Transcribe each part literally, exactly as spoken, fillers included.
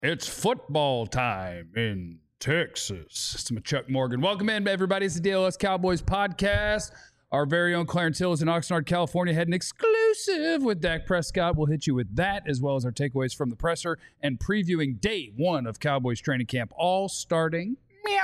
It's football time in Texas. It's Chuck Morgan. Welcome in, everybody. It's the D L S Cowboys podcast. Our very own Clarence Hill is in Oxnard, California. Had an exclusive with Dak Prescott. We'll hit you with that, as well as our takeaways from the presser and previewing day one of Cowboys training camp, all starting meow.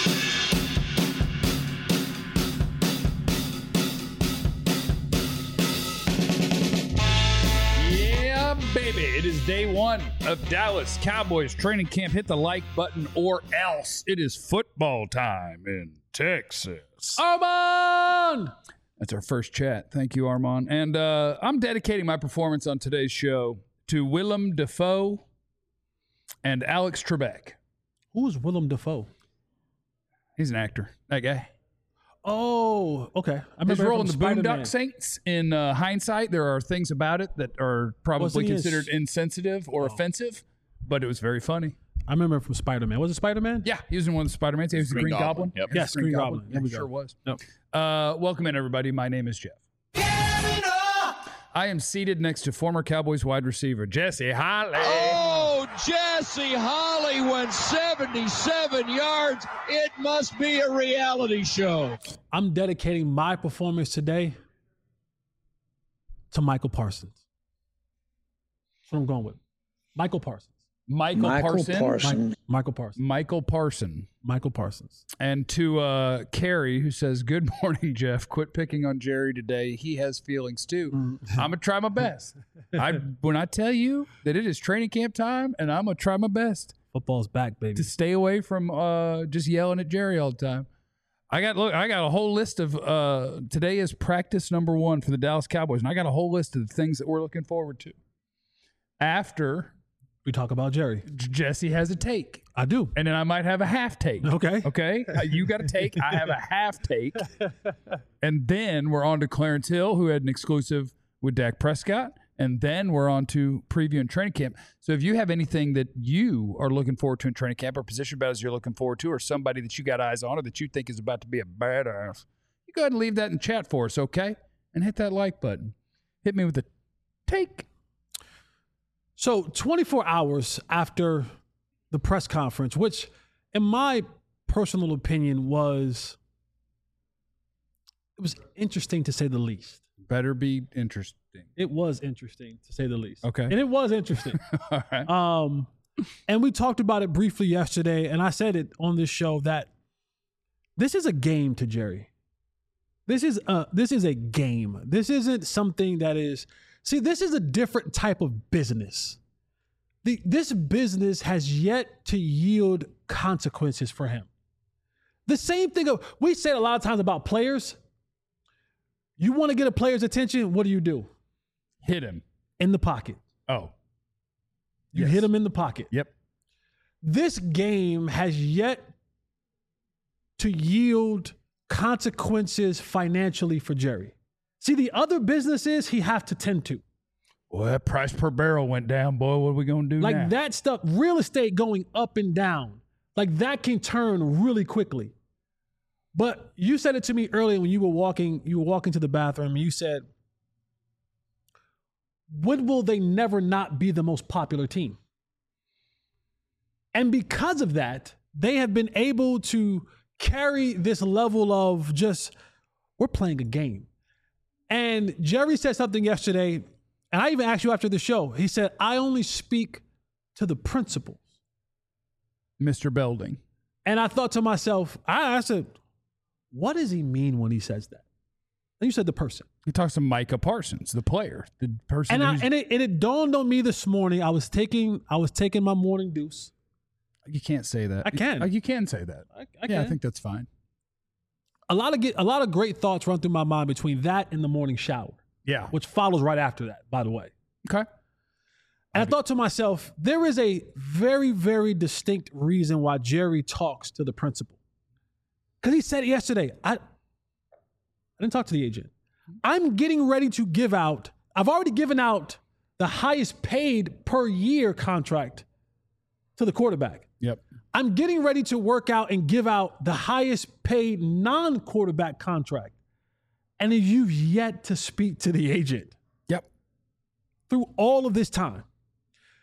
Baby, it is day one of Dallas Cowboys training camp. Hit the like button or else. It is football time in Texas. Armand! That's our first chat. Thank you, Armand. And uh, I'm dedicating my performance on today's show to Willem Dafoe and Alex Trebek. Who's Willem Dafoe? He's an actor. That guy. Oh, okay. I His role in the Spider-Man. Boondock Saints, in uh, hindsight, there are things about it that are probably considered his... insensitive or oh. offensive, but it was very funny. I remember him from Spider-Man. Was it Spider-Man? Yeah, he was in one of the Spider-Mans. He was Green the Green Goblin. Goblin. Yep. Yes, Green, Green Goblin. Goblin. Yeah, yeah, sure was. Yep. Uh, welcome in, everybody. My name is Jeff. I am seated next to former Cowboys wide receiver Jesse Holley. Oh, Jesse Holley went seventy-seven yards. It must be a reality show. I'm dedicating my performance today to Michael Parsons. That's what I'm going with. Michael Parsons. Michael, Michael Parson. Parson. Mi- Michael Parsons. Michael Parson. Michael Parsons. And to uh, Carrie, who says, "Good morning, Jeff. Quit picking on Jerry today. He has feelings too. Mm. I'm gonna try my best. I when I tell you that it is training camp time, and I'm gonna try my best Football's back, baby. to stay away from uh, just yelling at Jerry all the time. I got look. I got a whole list of uh, today is practice number one for the Dallas Cowboys, and I got a whole list of the things that we're looking forward to after." We talk about Jerry. Jesse has a take. I do. And then I might have a half take. Okay. Okay. Uh, you got a take. I have a half take. And then we're on to Clarence Hill, who had an exclusive with Dak Prescott. And then we're on to preview and training camp. So if you have anything that you are looking forward to in training camp, or position battles you're looking forward to, or somebody that you got eyes on, or that you think is about to be a badass, you go ahead and leave that in chat for us, okay? And hit that like button. Hit me with a take. So twenty-four hours after the press conference, which in my personal opinion was, it was interesting to say the least. Better be interesting. It was interesting to say the least. Okay. And it was interesting. All right. Um, and we talked about it briefly yesterday, and I said it on this show that this is a game to Jerry. This is a, this is a game. This isn't something that is, see, this is a different type of business. The, this business has yet to yield consequences for him. The same thing of, we said a lot of times about players. You want to get a player's attention, what do you do? Hit him. In the pocket. Oh. You Yes. hit him in the pocket. Yep. This game has yet to yield consequences financially for Jerry. See, the other businesses he have to tend to. Well, that price per barrel went down, boy. What are we going to do Like now? that stuff, real estate going up and down, like that can turn really quickly. But you said it to me earlier when you were walking, you were walking to the bathroom, and you said, when will they never not be the most popular team? And because of that, they have been able to carry this level of just, we're playing a game. And Jerry said something yesterday, and I even asked you after the show. He said, I only speak to the principals. Mister Belding. And I thought to myself, I, I said, what does he mean when he says that? And you said the person. He talks to Micah Parsons, the player, the person. And, I, who's, and, it, and it dawned on me this morning. I was taking I was taking my morning deuce. you can't say that. I can. You, you can say that. I, I yeah, can. I think that's fine. A lot of get, a lot of great thoughts run through my mind between that and the morning shower, Yeah. which follows right after that, by the way. Okay. And I thought to myself, there is a very, very distinct reason why Jerry talks to the principal. Because he said it yesterday, I, I didn't talk to the agent. I'm getting ready to give out, I've already given out the highest paid per year contract to the quarterback. Yep. I'm getting ready to work out and give out the highest paid non-quarterback contract. And you've yet to speak to the agent. Yep. Through all of this time.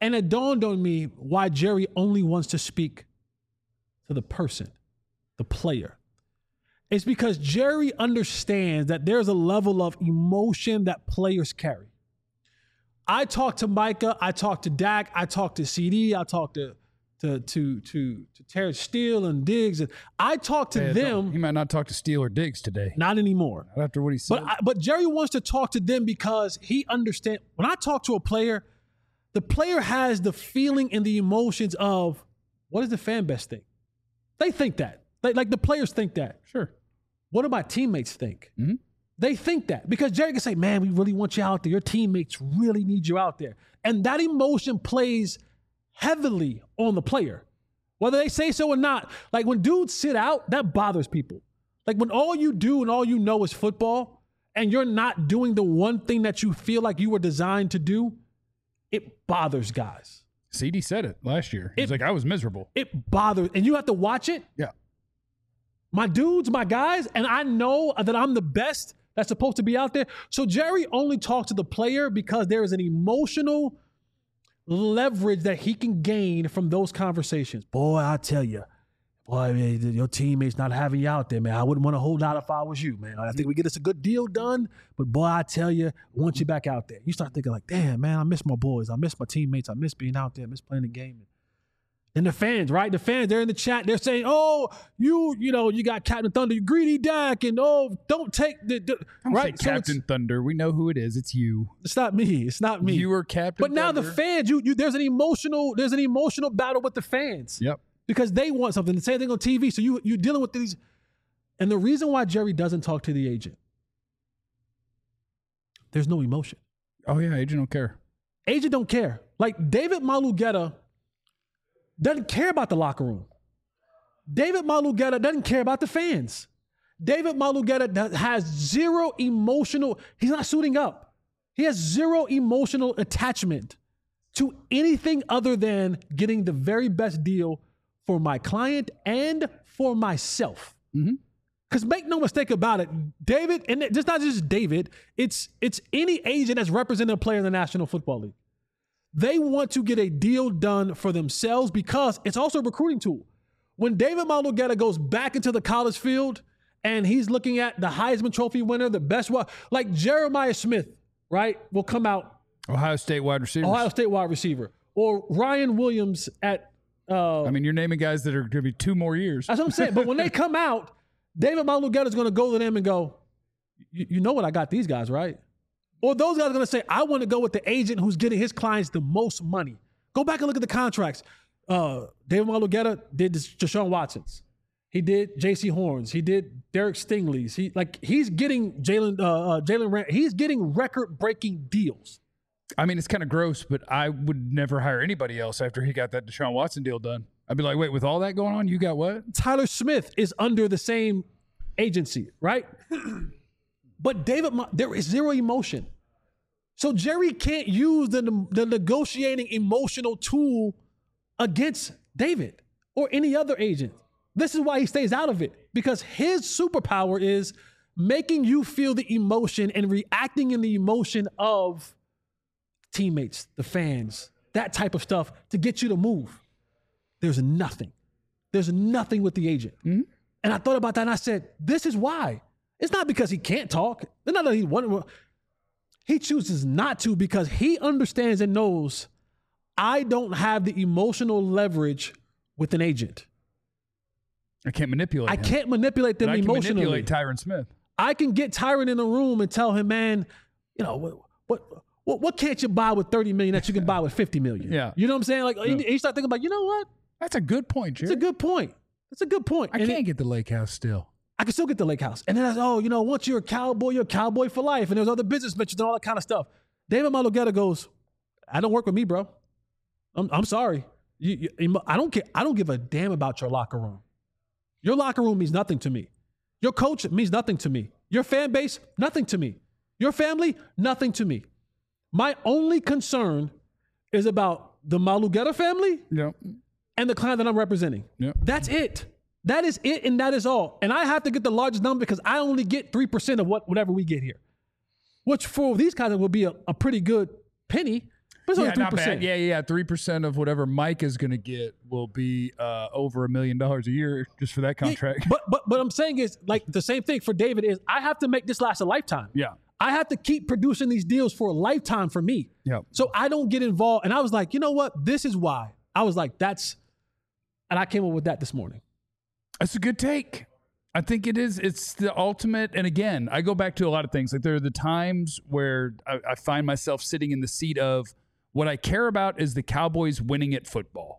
And it dawned on me why Jerry only wants to speak to the person, the player. It's because Jerry understands that there's a level of emotion that players carry. I talk to Micah, I talk to Dak, I talk to C D, I talk to to to to, to Terrence Steele and Diggs, and I talk to Hey, them. He might not talk to Steele or Diggs today. Not anymore. Not after what he said. But I, but Jerry wants to talk to them because he understands. When I talk to a player, the player has the feeling and the emotions of what does the fan base think? They think that. They, like the players think that. Sure. What do my teammates think? Mm-hmm. They think that because Jerry can say, man, we really want you out there. Your teammates really need you out there. And that emotion plays heavily on the player, whether they say so or not. Like when dudes sit out, that bothers people. Like when all you do and all you know is football and you're not doing the one thing that you feel like you were designed to do, it bothers guys. C D said it last year. He's like, I was miserable. It bothers. And you have to watch it. Yeah. My dudes, my guys, and I know that I'm the best that's supposed to be out there. So Jerry only talks to the player because there is an emotional leverage that he can gain from those conversations. Boy, I tell you, boy, man, your teammates not having you out there, man. I wouldn't want to hold out if I was you, man. I think we get us a good deal done, but boy, I tell you, I want you back out there. You start thinking like, damn, man, I miss my boys. I miss my teammates. I miss being out there. I miss playing the game. And the fans, right? The fans, they're in the chat. They're saying, oh, you, you know, you got Captain Thunder, you greedy Dak, and oh, don't take the, the Don't right. say Captain so Thunder. We know who it is. It's you. It's not me. It's not me. You were Captain But now Thunder. the fans, you, you, there's an emotional, there's an emotional battle with the fans. Yep. Because they want something. The same thing on T V. So you, you're dealing with these. And the reason why Jerry doesn't talk to the agent, there's no emotion. Oh, yeah. Agent don't care. Agent don't care. Like David Malugeta doesn't care about the locker room. David Malugeta doesn't care about the fans. David Malugeta has zero emotional, he's not suiting up. He has zero emotional attachment to anything other than getting the very best deal for my client and for myself. Mm-hmm. Because make no mistake about it, David, and it's not just David, it's it's any agent that's representing a player in the National Football League. They want to get a deal done for themselves because it's also a recruiting tool. When David Malugeta goes back into the college field and he's looking at the Heisman Trophy winner, the best one, like Jeremiah Smith, right, will come out. Ohio State wide receiver. Ohio State wide receiver. Or Ryan Williams at uh, I mean, you're naming guys that are going to be two more years. That's what I'm saying. But when they come out, David Malugeta is going to go to them and go, you know what, I got these guys, right? Or those guys are going to say, I want to go with the agent who's getting his clients the most money. Go back and look at the contracts. Uh, David Malugeta did this, Deshaun Watson's. He did J C Horns. He did Derek Stingley's. He like he's getting Jalen uh, uh, Jalen Ram- He's getting record-breaking deals. I mean, it's kind of gross, but I would never hire anybody else after he got that Deshaun Watson deal done. I'd be like, wait, with all that going on, you got what? Tyler Smith is under the same agency, right? But David, there is zero emotion. So Jerry can't use the, the negotiating emotional tool against David or any other agent. This is why he stays out of it, because his superpower is making you feel the emotion and reacting in the emotion of teammates, the fans, that type of stuff to get you to move. There's nothing. There's nothing with the agent. Mm-hmm. And I thought about that and I said, this is why. It's not because he can't talk. It's not that he wants. He chooses not to because he understands and knows I don't have the emotional leverage with an agent. I can't manipulate I him. can't manipulate them but I can emotionally. manipulate Tyron Smith. I can get Tyron in the room and tell him, man, you know, what what what, what can't you buy with thirty million that you can buy with fifty million? Yeah. You know what I'm saying? Like, Yeah. and you start thinking about, you know what? That's a good point, Jerry. It's a good point. It's a good point. I And can't it- get the lake house still. I can still get the lake house. And then I said, oh, you know, once you're a cowboy, you're a cowboy for life. And there's other business ventures and all that kind of stuff. David Malugeta goes, I don't work with me, bro. I'm, I'm sorry. You, you, I don't care. I don't give a damn about your locker room. Your locker room means nothing to me. Your coach means nothing to me. Your fan base, nothing to me. Your family, nothing to me. My only concern is about the Malugeta family Yep. and the client that I'm representing. Yep. That's it. That is it, and that is all. And I have to get the largest number because I only get three percent of what whatever we get here, which for these guys will be a, a pretty good penny. But it's only Yeah, three not bad. percent. Yeah, yeah, three percent of whatever Mike is going to get will be uh, over a million dollars a year just for that contract. But but what I'm saying is like the same thing for David is I have to make this last a lifetime. Yeah. I have to keep producing these deals for a lifetime for me. Yeah. So I don't get involved. And I was like, you know what? This is why. I was like, that's, and I came up with that this morning. That's a good take. I think it is. It's the ultimate. And again, I go back to a lot of things. Like there are the times where I, I find myself sitting in the seat of what I care about is the Cowboys winning at football.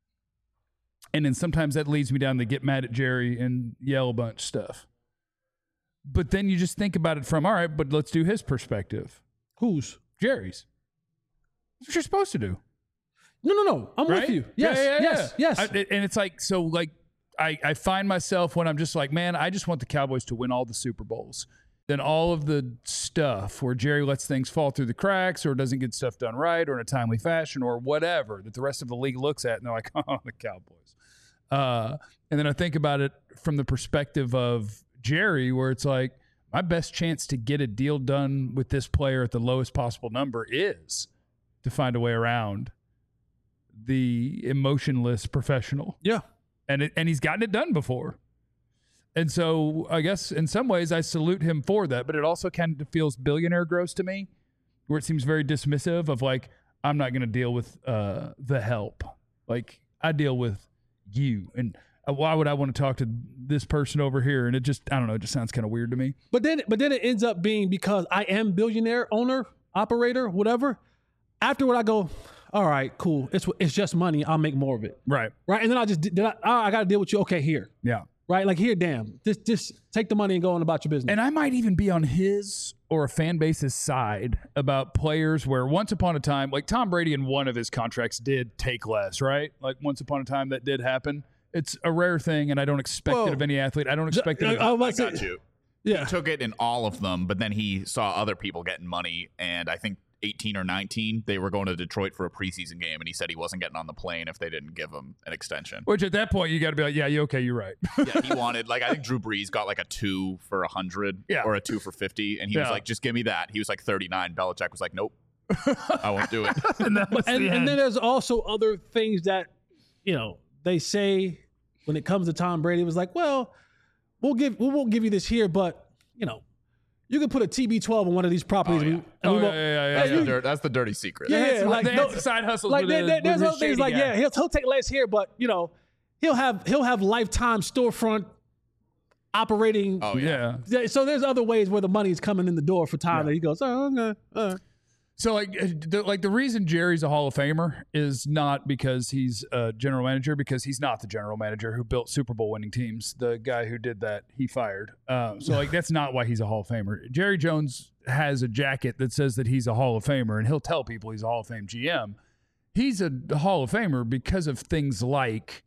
And then sometimes that leads me down to get mad at Jerry and yell a bunch stuff. But then you just think about it from, all right, but let's do his perspective. Whose? Jerry's. That's what you're supposed to do. No, no, no. I'm Right? with you. Yeah, Yes, yeah, yeah. yes, yes. I, and it's like, so like, I, I find myself when I'm just like, man, I just want the Cowboys to win all the Super Bowls. Then all of the stuff where Jerry lets things fall through the cracks or doesn't get stuff done right or in a timely fashion or whatever that the rest of the league looks at and they're like, oh, the Cowboys. Uh, and then I think about it from the perspective of Jerry, where it's like, my best chance to get a deal done with this player at the lowest possible number is to find a way around the emotionless professional. yeah. And it, and he's gotten it done before. And so I guess in some ways I salute him for that, but it also kind of feels billionaire gross to me, where it seems very dismissive of like, I'm not going to deal with uh, the help. Like I deal with you. And why would I want to talk to this person over here? And it just, I don't know, it just sounds kind of weird to me. But then, but then it ends up being because I am billionaire, owner, operator, whatever. Afterward, I go, all right, cool. It's it's just money. I'll make more of it. Right. Right. And then I just, then I, oh, I got to deal with you. Okay, here. Yeah. Right. Like here, damn. Just just take the money and go on about your business. And I might even be on his or a fan base's side about players where once upon a time, like Tom Brady in one of his contracts did take less, right? Like once upon a time that did happen. It's a rare thing, and I don't expect Whoa. it of any athlete. I don't expect it. Of, I, I, I got you. Yeah. He took it in all of them, but then he saw other people getting money, and I think eighteen or nineteen, they were going to Detroit for a preseason game, and he said he wasn't getting on the plane if they didn't give him an extension. which at that point, you got to be like, yeah, you okay, you're right. Yeah, he wanted, like, I think Drew Brees got like a two for one hundred Yeah. or a two for fifty, and he was Yeah. like, just give me that. He was like thirty-nine. Belichick was like, nope, I won't do it. and that was and, the and end. then there's also other things that, you know, they say when it comes to Tom Brady. It was like, well, we'll give we won't give you this here, but you know, you can put a T B twelve on one of these properties. Oh, yeah. and we, Oh, and we yeah, won't- yeah, yeah, That's, yeah. the, dirt, that's the dirty secret. Yeah, They had- like, they no- had some side hustles. like with there, the- there- there's with other his things shady like guy. yeah, he'll he'll take less here, but you know, he'll have he'll have lifetime storefront operating. Oh, yeah. yeah. Yeah, so there's other ways where the money's coming in the door for Tom that he goes, oh, okay, all right. So like, uh, the, like the reason Jerry's a Hall of Famer is not because he's a general manager, because he's not the general manager who built Super Bowl winning teams. The guy who did that, he fired. Um, so like, that's not why he's a Hall of Famer. Jerry Jones has a jacket that says that he's a Hall of Famer, and he'll tell people he's a Hall of Fame G M. He's a Hall of Famer because of things like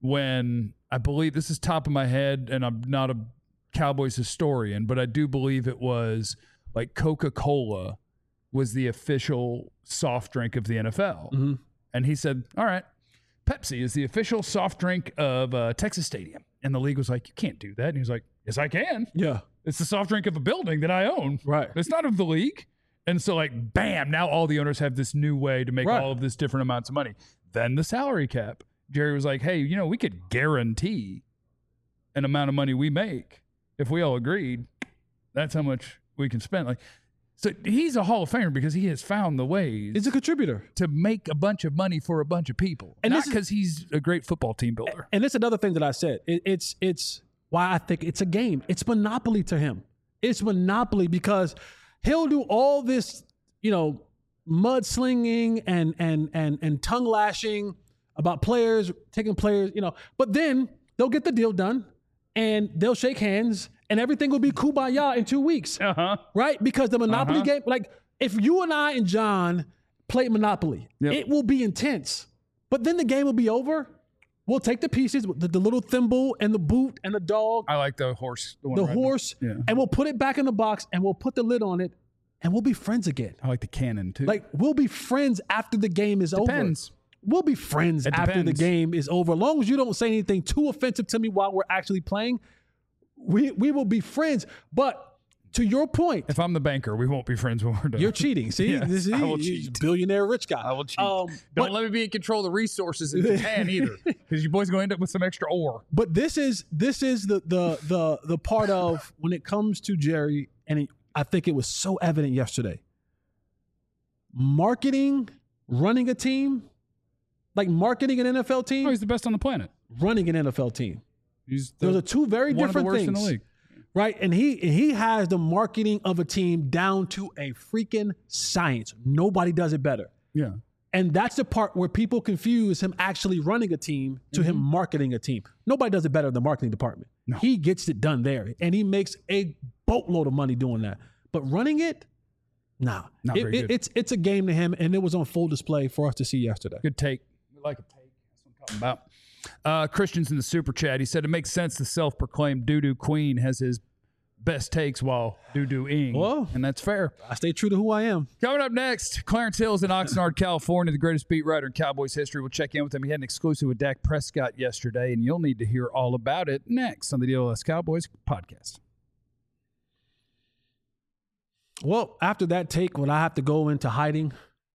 when, I believe, this is top of my head, and I'm not a Cowboys historian, but I do believe it was like Coca-Cola was the official soft drink of the N F L. Mm-hmm. And he said, all right, Pepsi is the official soft drink of uh, Texas Stadium. And the league was like, you can't do that. And he was like, yes, I can. Yeah, It's the soft drink of a building that I own. right. It's not of the league. And so like, bam, now all the owners have this new way to make Right. all of this different amounts of money. Then the salary cap. Jerry was like, hey, you know, we could guarantee an amount of money we make. If we all agreed, that's how much we can spend. Like, so he's a Hall of Famer because he has found the ways He's a contributor. to make a bunch of money for a bunch of people. And Not this is- because he's a great football team builder. And it's another thing that I said. It, it's it's why I think it's a game. It's monopoly to him. It's monopoly because he'll do all this, you know, mudslinging and and and and tongue lashing about players, taking players, you know. But then they'll get the deal done, and they'll shake hands, and everything will be kumbaya in two weeks, Uh-huh. right? Because the monopoly Uh-huh. game, like if you and I and John play Monopoly, Yep. it will be intense. But then the game will be over. We'll take the pieces, the, the little thimble and the boot and the dog, I like the horse. The, one the right now. horse, Yeah. and we'll put it back in the box and we'll put the lid on it, and we'll be friends again. I like the cannon too. Like we'll be friends after the game is Depends. over. We'll be friends It after the depends. game is over. As long as you don't say anything too offensive to me while we're actually playing, we we will be friends. But to your point, If I'm the banker, we won't be friends when we're done. you're cheating. See, Yes, this is I will he's cheat. a billionaire rich guy. I will cheat. Um, Don't but, let me be in control of the resources in Japan either, because you boys gonna end up with some extra ore. but this is this is the the the the part of when it comes to Jerry, and it, I think it was so evident yesterday. Marketing, running a team, like marketing an N F L team, Oh, he's the best on the planet. running an N F L team. He's the, Those are two very one of the different worst things. in the league. Right. And he and he has the marketing of a team down to a freaking science. Nobody does it better. Yeah. And that's the part where people confuse him actually running a team to him marketing a team. Nobody does it better than the marketing department. No. He gets it done there. And he makes a boatload of money doing that. But running it, nah. Not It- very it- good. it's it's a game to him, and it was on full display for us to see yesterday. Good take. We like a take. That's what I'm talking about. Uh, Christian's in the super chat. He said it makes sense the self-proclaimed doo-doo queen has his best takes while doo-dooing. Whoa. And that's fair. I stay true to who I am. Coming up next, Clarence Hill's in Oxnard, California, the greatest beat writer in Cowboys history. We'll check in with him. He had an exclusive with Dak Prescott yesterday, and you'll need to hear all about it next on the D L S Cowboys podcast. Well, after that take, when I have to go into hiding,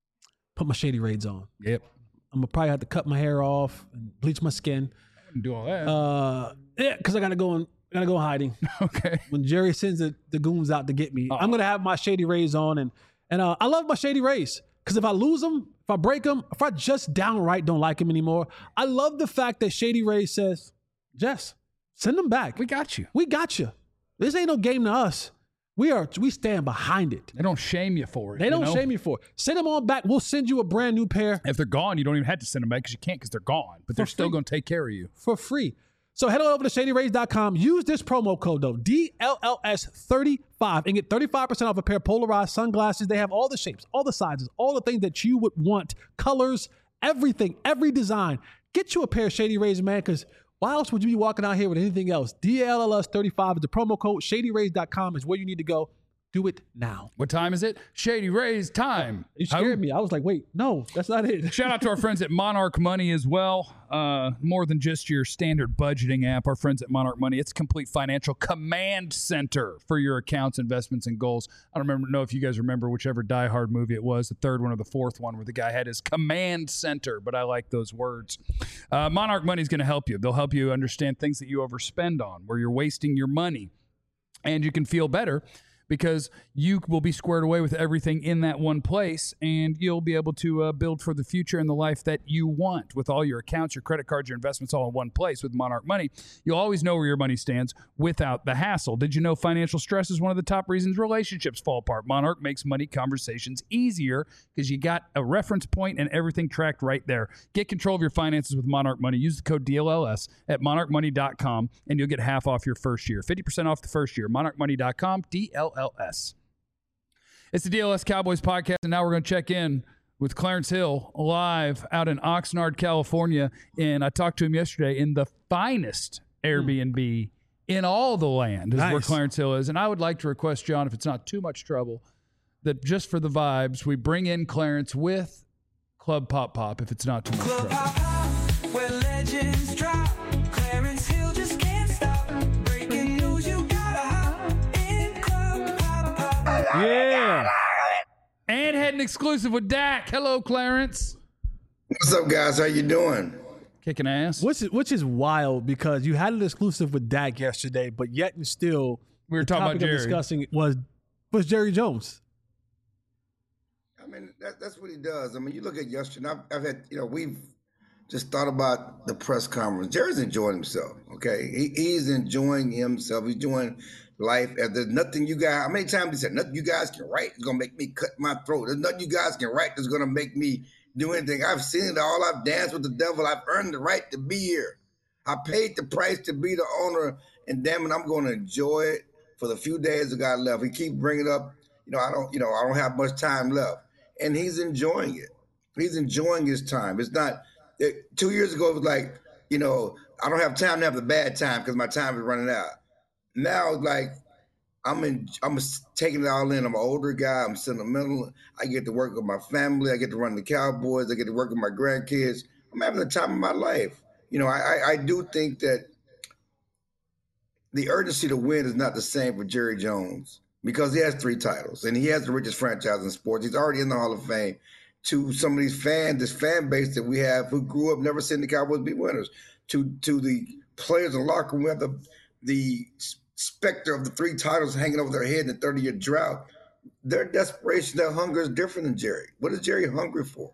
put my shady raids on. Yep. I'm gonna probably have to cut my hair off and bleach my skin. Do all that. Uh, yeah, because I gotta go and gotta go hiding. okay. When Jerry sends the, the goons out to get me, I'm gonna have my shady rays on, and and uh, I love my shady rays because if I lose them, if I break them, if I just downright don't like them anymore, I love the fact that Shady Rays says, Jess, send them back. We got you. We got you. This ain't no game to us. We are we stand behind it. They don't shame you for it. They you don't know? shame you for it. Send them on back. We'll send you a brand new pair If they're gone, you don't even have to send them back because you can't because they're gone. But they're For still free. going to take care of you. for free. So head on over to shady rays dot com. Use this promo code though, D L L S thirty-five, and get thirty-five percent off a pair of polarized sunglasses. They have all the shapes, all the sizes, all the things that you would want, colors, everything, every design. Get you a pair of Shady Rays, man, because why else would you be walking out here with anything else? D L L S thirty-five is the promo code. shady rays dot com is where you need to go. Do it now. What time is it? Shady Rays time. You scared me. I was like, wait, no, that's not it. Shout out to our friends at Monarch Money as well. Uh, more than just your standard budgeting app. Our friends at Monarch Money, it's a complete financial command center for your accounts, investments, and goals. I don't remember know if you guys remember whichever Die Hard movie it was, the third one or the fourth one, where the guy had his command center, but I like those words. Uh, Monarch Money is going to help you. They'll help you understand things that you overspend on, where you're wasting your money, and you can feel better because you will be squared away with everything in that one place, and you'll be able to uh, build for the future and the life that you want with all your accounts, your credit cards, your investments all in one place with Monarch Money. You'll always know where your money stands without the hassle. Did you know financial stress is one of the top reasons relationships fall apart? Monarch makes money conversations easier because you got a reference point and everything tracked right there. Get control of your finances with Monarch Money. Use the code D L L S at monarch money dot com, and you'll get half off your first year. fifty percent off the first year. monarch money dot com, D L L S. It's the D L S Cowboys podcast, and now we're going to check in with Clarence Hill live out in Oxnard, California. And I talked to him yesterday in the finest Airbnb in all the land is where Nice. Clarence Hill is. And I would like to request, John, if it's not too much trouble, that just for the vibes, we bring in Clarence with Club Pop Pop, if it's not too much Club trouble. Pop Pop, where legends drop. Clarence Hill just can't stop. Breaking news, you gotta hop in Club Pop Pop. Yeah. And had an exclusive with Dak. Hello, Clarence. What's up, guys? How you doing? Kicking ass. Which is, which is wild because you had an exclusive with Dak yesterday, but yet and still We were the talking about topic of Jerry. discussing was was Jerry Jones. I mean, that, that's what he does. I mean, you look at yesterday, I've, I've had, you know, we've just thought about the press conference. Jerry's enjoying himself, okay? He, he's enjoying himself. He's enjoying life. And there's nothing you guys, how many times he said, nothing you guys can write is going to make me cut my throat. There's nothing you guys can write that's going to make me do anything. I've seen it all. I've danced with the devil. I've earned the right to be here. I paid the price to be the owner, and damn it, I'm going to enjoy it for the few days I got left. He keep bringing up, you know, I don't, you know, I don't have much time left, and he's enjoying it. He's enjoying his time. It's not. It, two years ago, it was like, you know, I don't have time to have the bad time because my time is running out. Now, it's like, I'm in. I'm taking it all in. I'm an older guy. I'm sentimental. I get to work with my family. I get to run the Cowboys. I get to work with my grandkids. I'm having the time of my life. You know, I, I, I do think that the urgency to win is not the same for Jerry Jones because he has three titles and he has the richest franchise in sports. He's already in the Hall of Fame. To some of these fans, this fan base that we have who grew up never seeing the Cowboys be winners, to to the players in the locker room who have the, the specter of the three titles hanging over their head in the thirty-year drought, their desperation, their hunger is different than Jerry. What is Jerry hungry for?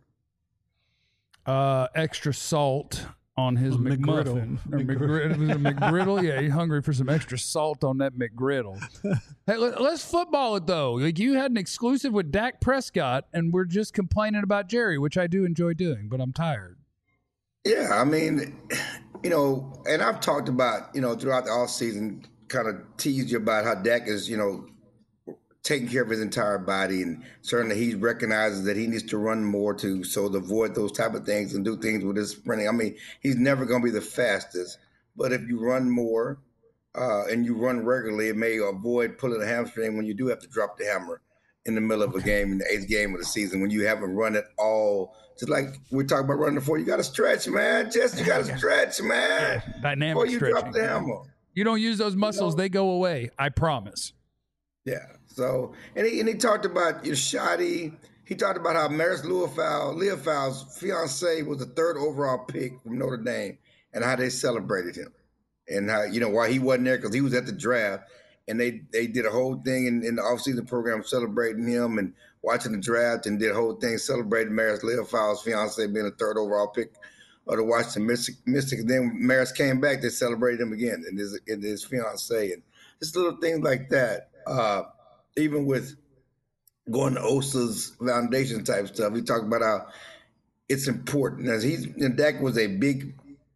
Uh, extra salt on his McGriddle. McMuffin. Or McGriddle. It was a McGriddle. Yeah, he's hungry for some extra salt on that McGriddle. Hey, let, let's football it, though. Like, you had an exclusive with Dak Prescott, and we're just complaining about Jerry, which I do enjoy doing, but I'm tired. Yeah, I mean, you know, and I've talked about, you know, throughout the offseason, kind of teased you about how Dak is, you know, taking care of his entire body, and certainly he recognizes that he needs to run more to so to avoid those type of things and do things with his sprinting. I mean, he's never going to be the fastest, but if you run more uh, and you run regularly, it may avoid pulling a hamstring when you do have to drop the hammer in the middle of a game, in the eighth game of the season, when you haven't run it all. Just like we talked about running before, you got to stretch, man. Just you got to stretch, man. Dynamic before you stretching. drop the hammer. You don't use those muscles, You know? they go away. I promise. Yeah. So, and he, and he talked about Shotty. He talked about how Maris Leofau, Leofau's fiance was the third overall pick from Notre Dame, and how they celebrated him, and how, you know, why he wasn't there because he was at the draft, and they they did a whole thing in, in the offseason program celebrating him and watching the draft, and did a whole thing celebrating Maris Leofau's fiance being the third overall pick of the Washington Mystics. And then when Maris came back, they celebrated him again, and his and his fiance, and just little things like that. Uh, Even with going to O S A's foundation type stuff, he talked about how it's important. As he's, and Dak was a big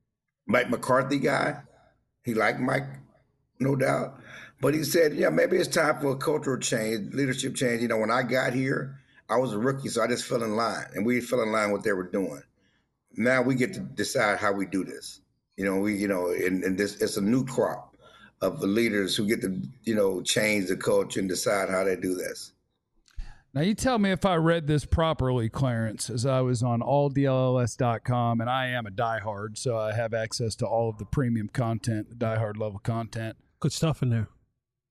Mike McCarthy guy. He liked Mike, no doubt. But he said, yeah, maybe it's time for a cultural change, leadership change. You know, when I got here, I was a rookie, so I just fell in line, and we fell in line with what they were doing. Now we get to decide how we do this. You know, we, you know, and, and this, it's a new crop of the leaders who get to, you know, change the culture and decide how they do this. Now, you tell me if I read this properly, Clarence, as I was on all D L L S dot com, and I am a diehard, so I have access to all of the premium content, the diehard level content. Good stuff in there.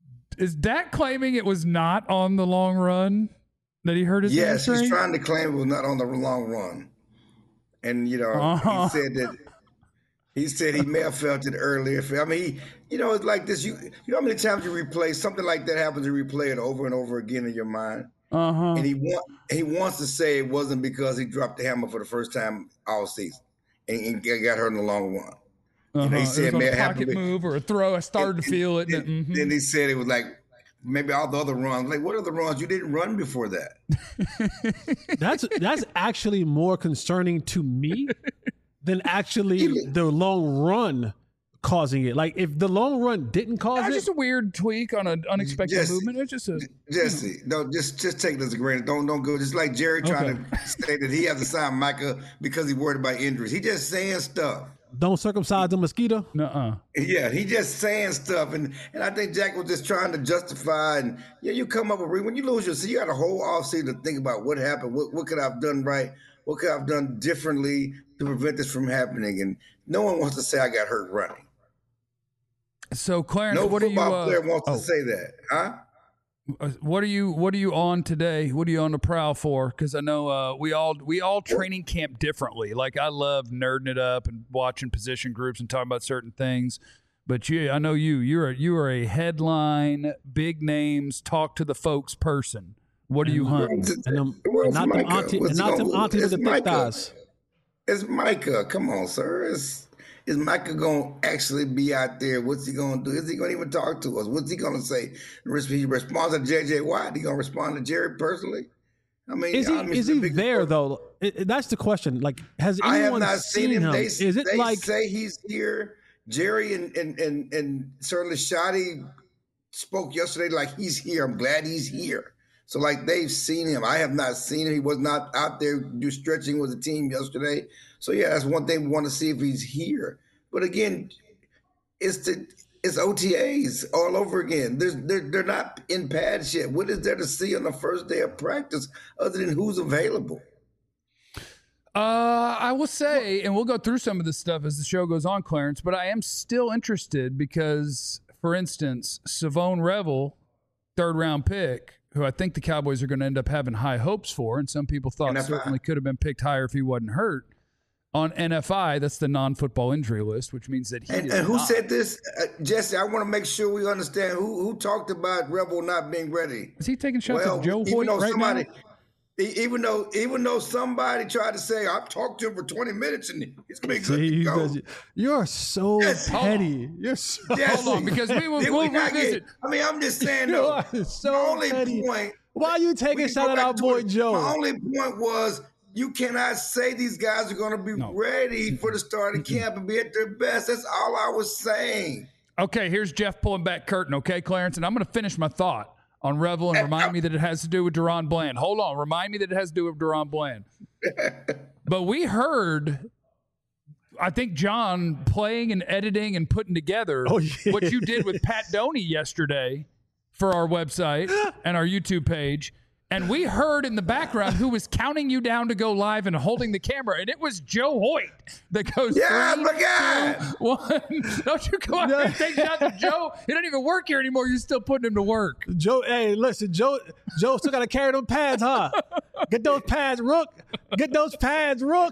Is Dak claiming it was not on the long run that he hurt his Yes, hamstring? he's trying to claim it was not on the long run. And, you know, Uh-huh. he said that he said he may have felt it earlier. I mean, he, you know, it's like this. You, you know how many times you replay something like that happens, you replay it over and over again in your mind. Uh-huh. And he want, he wants to say it wasn't because he dropped the hammer for the first time all season and, and got hurt in the long run. Uh-huh. You know, he It said was on may a have happened pocket with- move or a throw. I started to feel it. Then, and- mhm. then he said it was like maybe all the other runs. Like, what are the runs? You didn't run before that. That's that's actually more concerning to me than actually Even- the long run causing it. Like if the long run didn't cause That's it, just a weird tweak on an unexpected Jesse, movement. It's just a Jesse, no, just just take it as a grain. Don't don't go. Just like Jerry trying to say that he has to sign Micah because he's worried about injuries. He just saying stuff. don't circumcise the mosquito. nuh-uh. Yeah, he just saying stuff, and and I think Jack was just trying to justify. And yeah, you come up with when you lose your season, you got a whole offseason to think about what happened, what what could I have done right, what could I have done differently to prevent this from happening. And no one wants to say I got hurt running. So, Clarence, No what are you? football Uh, player wants oh, to say that, huh? uh, what are you? What are you on today? What are you on the prowl for? Because I know uh, we all we all training camp differently. Like I love nerding it up and watching position groups and talking about certain things. But you, I know you. You're a, you are a headline, big names, talk to the folks person. What are you hunting? And them, Where's and not them Micah? auntie, What's and he not them gonna- auntie with it's the thick Micah. thighs. It's Micah. Come on, sir. Is is Micah gonna actually be out there? What's he gonna do? Is he gonna even talk to us? What's he gonna say? He responds to J J Watt. He gonna respond to Jerry personally? I mean, Is he I mean, is it's a he big- there though? It- it- that's the question. Like, has I have anyone not seen, seen him. him? They, Is it they like say he's here. Jerry and and and, and certainly Shotty spoke yesterday like he's here. I'm glad he's here. So like they've seen him. I have not seen him. He was not out there do stretching with the team yesterday. So yeah, that's one thing we want to see if he's here. But again, it's the it's O T As all over again. There's they're they're not in pads yet. What is there to see on the first day of practice other than who's available? Uh, I will say, and we'll go through some of this stuff as the show goes on, Clarence, but I am still interested because, for instance, Savone Revel third round pick, who I think the Cowboys are going to end up having high hopes for, and some people thought N F I. certainly could have been picked higher if he wasn't hurt. On N F I, that's the non-football injury list, which means that he And, is and who not. said this? Uh, Jesse, I want to make sure we understand who who talked about Rebel not being ready. Is he taking shots Well, at Joe even Hoyt though right somebody, now? e- even though even though somebody tried to say I've talked to him for twenty minutes and he's gonna be good See, to you go. guys- You're so Yes. petty. You're so, Jesse, Hold on, because we will did we'll we not get- revisit. I mean, I'm just saying you though. are my so only petty. point. Why are you taking we a can shot go at back our to boy it. Joe? My only point was you cannot say these guys are going to be No. ready for the start of camp and be at their best. That's all I was saying. Okay, here's Jeff pulling back curtain, okay, Clarence? And I'm going to finish my thought on Revel and remind me that it has to do with Deron Bland. Hold on. Remind me that it has to do with Deron Bland. But we heard, I think, John playing and editing and putting together Oh, yeah. what you did with Pat Doney yesterday for our website and our YouTube page. And we heard in the background who was counting you down to go live and holding the camera. And it was Joe Hoyt that goes, Yeah, three, my guy. two, one. Don't you come out here and take shots at Joe. He doesn't even work here anymore. You're still putting him to work. Joe, hey, listen, Joe, Joe still got to carry them pads, huh? Get those pads, Rook. Get those pads, Rook.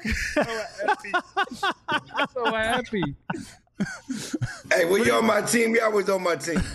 So happy. Hey, when you're on my team, you're always on my team.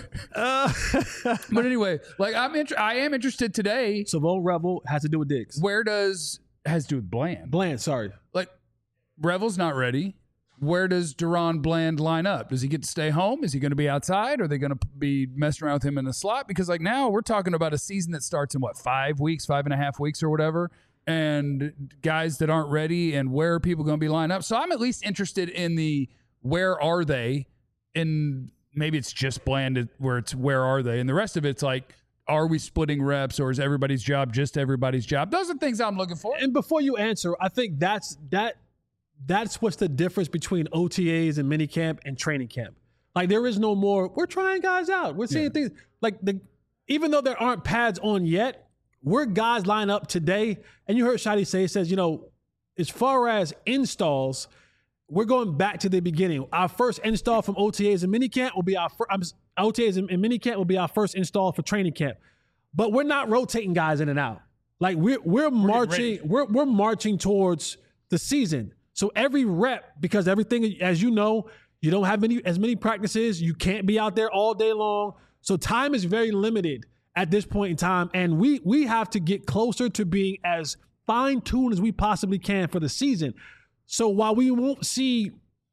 But anyway, like I'm inter- I am interested today. Savon Revel has to do with Diggs. Where does has to do with Bland? Bland, sorry. Like Revel's not ready. Where does Deron Bland line up? Does he get to stay home? Is he going to be outside? Are they going to be messing around with him in the slot? Because like now we're talking about a season that starts in what, five weeks, five and a half weeks or whatever, and guys that aren't ready, and where are people going to be lined up? So I'm at least interested in the where are they, and maybe it's just Bland where it's where are they, and the rest of it's like, are we splitting reps, or is everybody's job just everybody's job? Those are things I'm looking for. And before you answer, I think that's that that's what's the difference between O T As and minicamp and training camp. Like there is no more, we're trying guys out. We're seeing Yeah. things like the even though there aren't pads on yet, we're guys line up today. And you heard Shadi say, it says, you know, as far as installs, we're going back to the beginning. Our first install from O T As and minicamp will be our first, O T As and, and minicamp will be our first install for training camp. But we're not rotating guys in and out. Like we're we're marching, we're we're marching towards the season. So every rep, because everything, as you know, you don't have many as many practices. You can't be out there all day long. So time is very limited at this point in time. And we we have to get closer to being as fine-tuned as we possibly can for the season. So while we won't see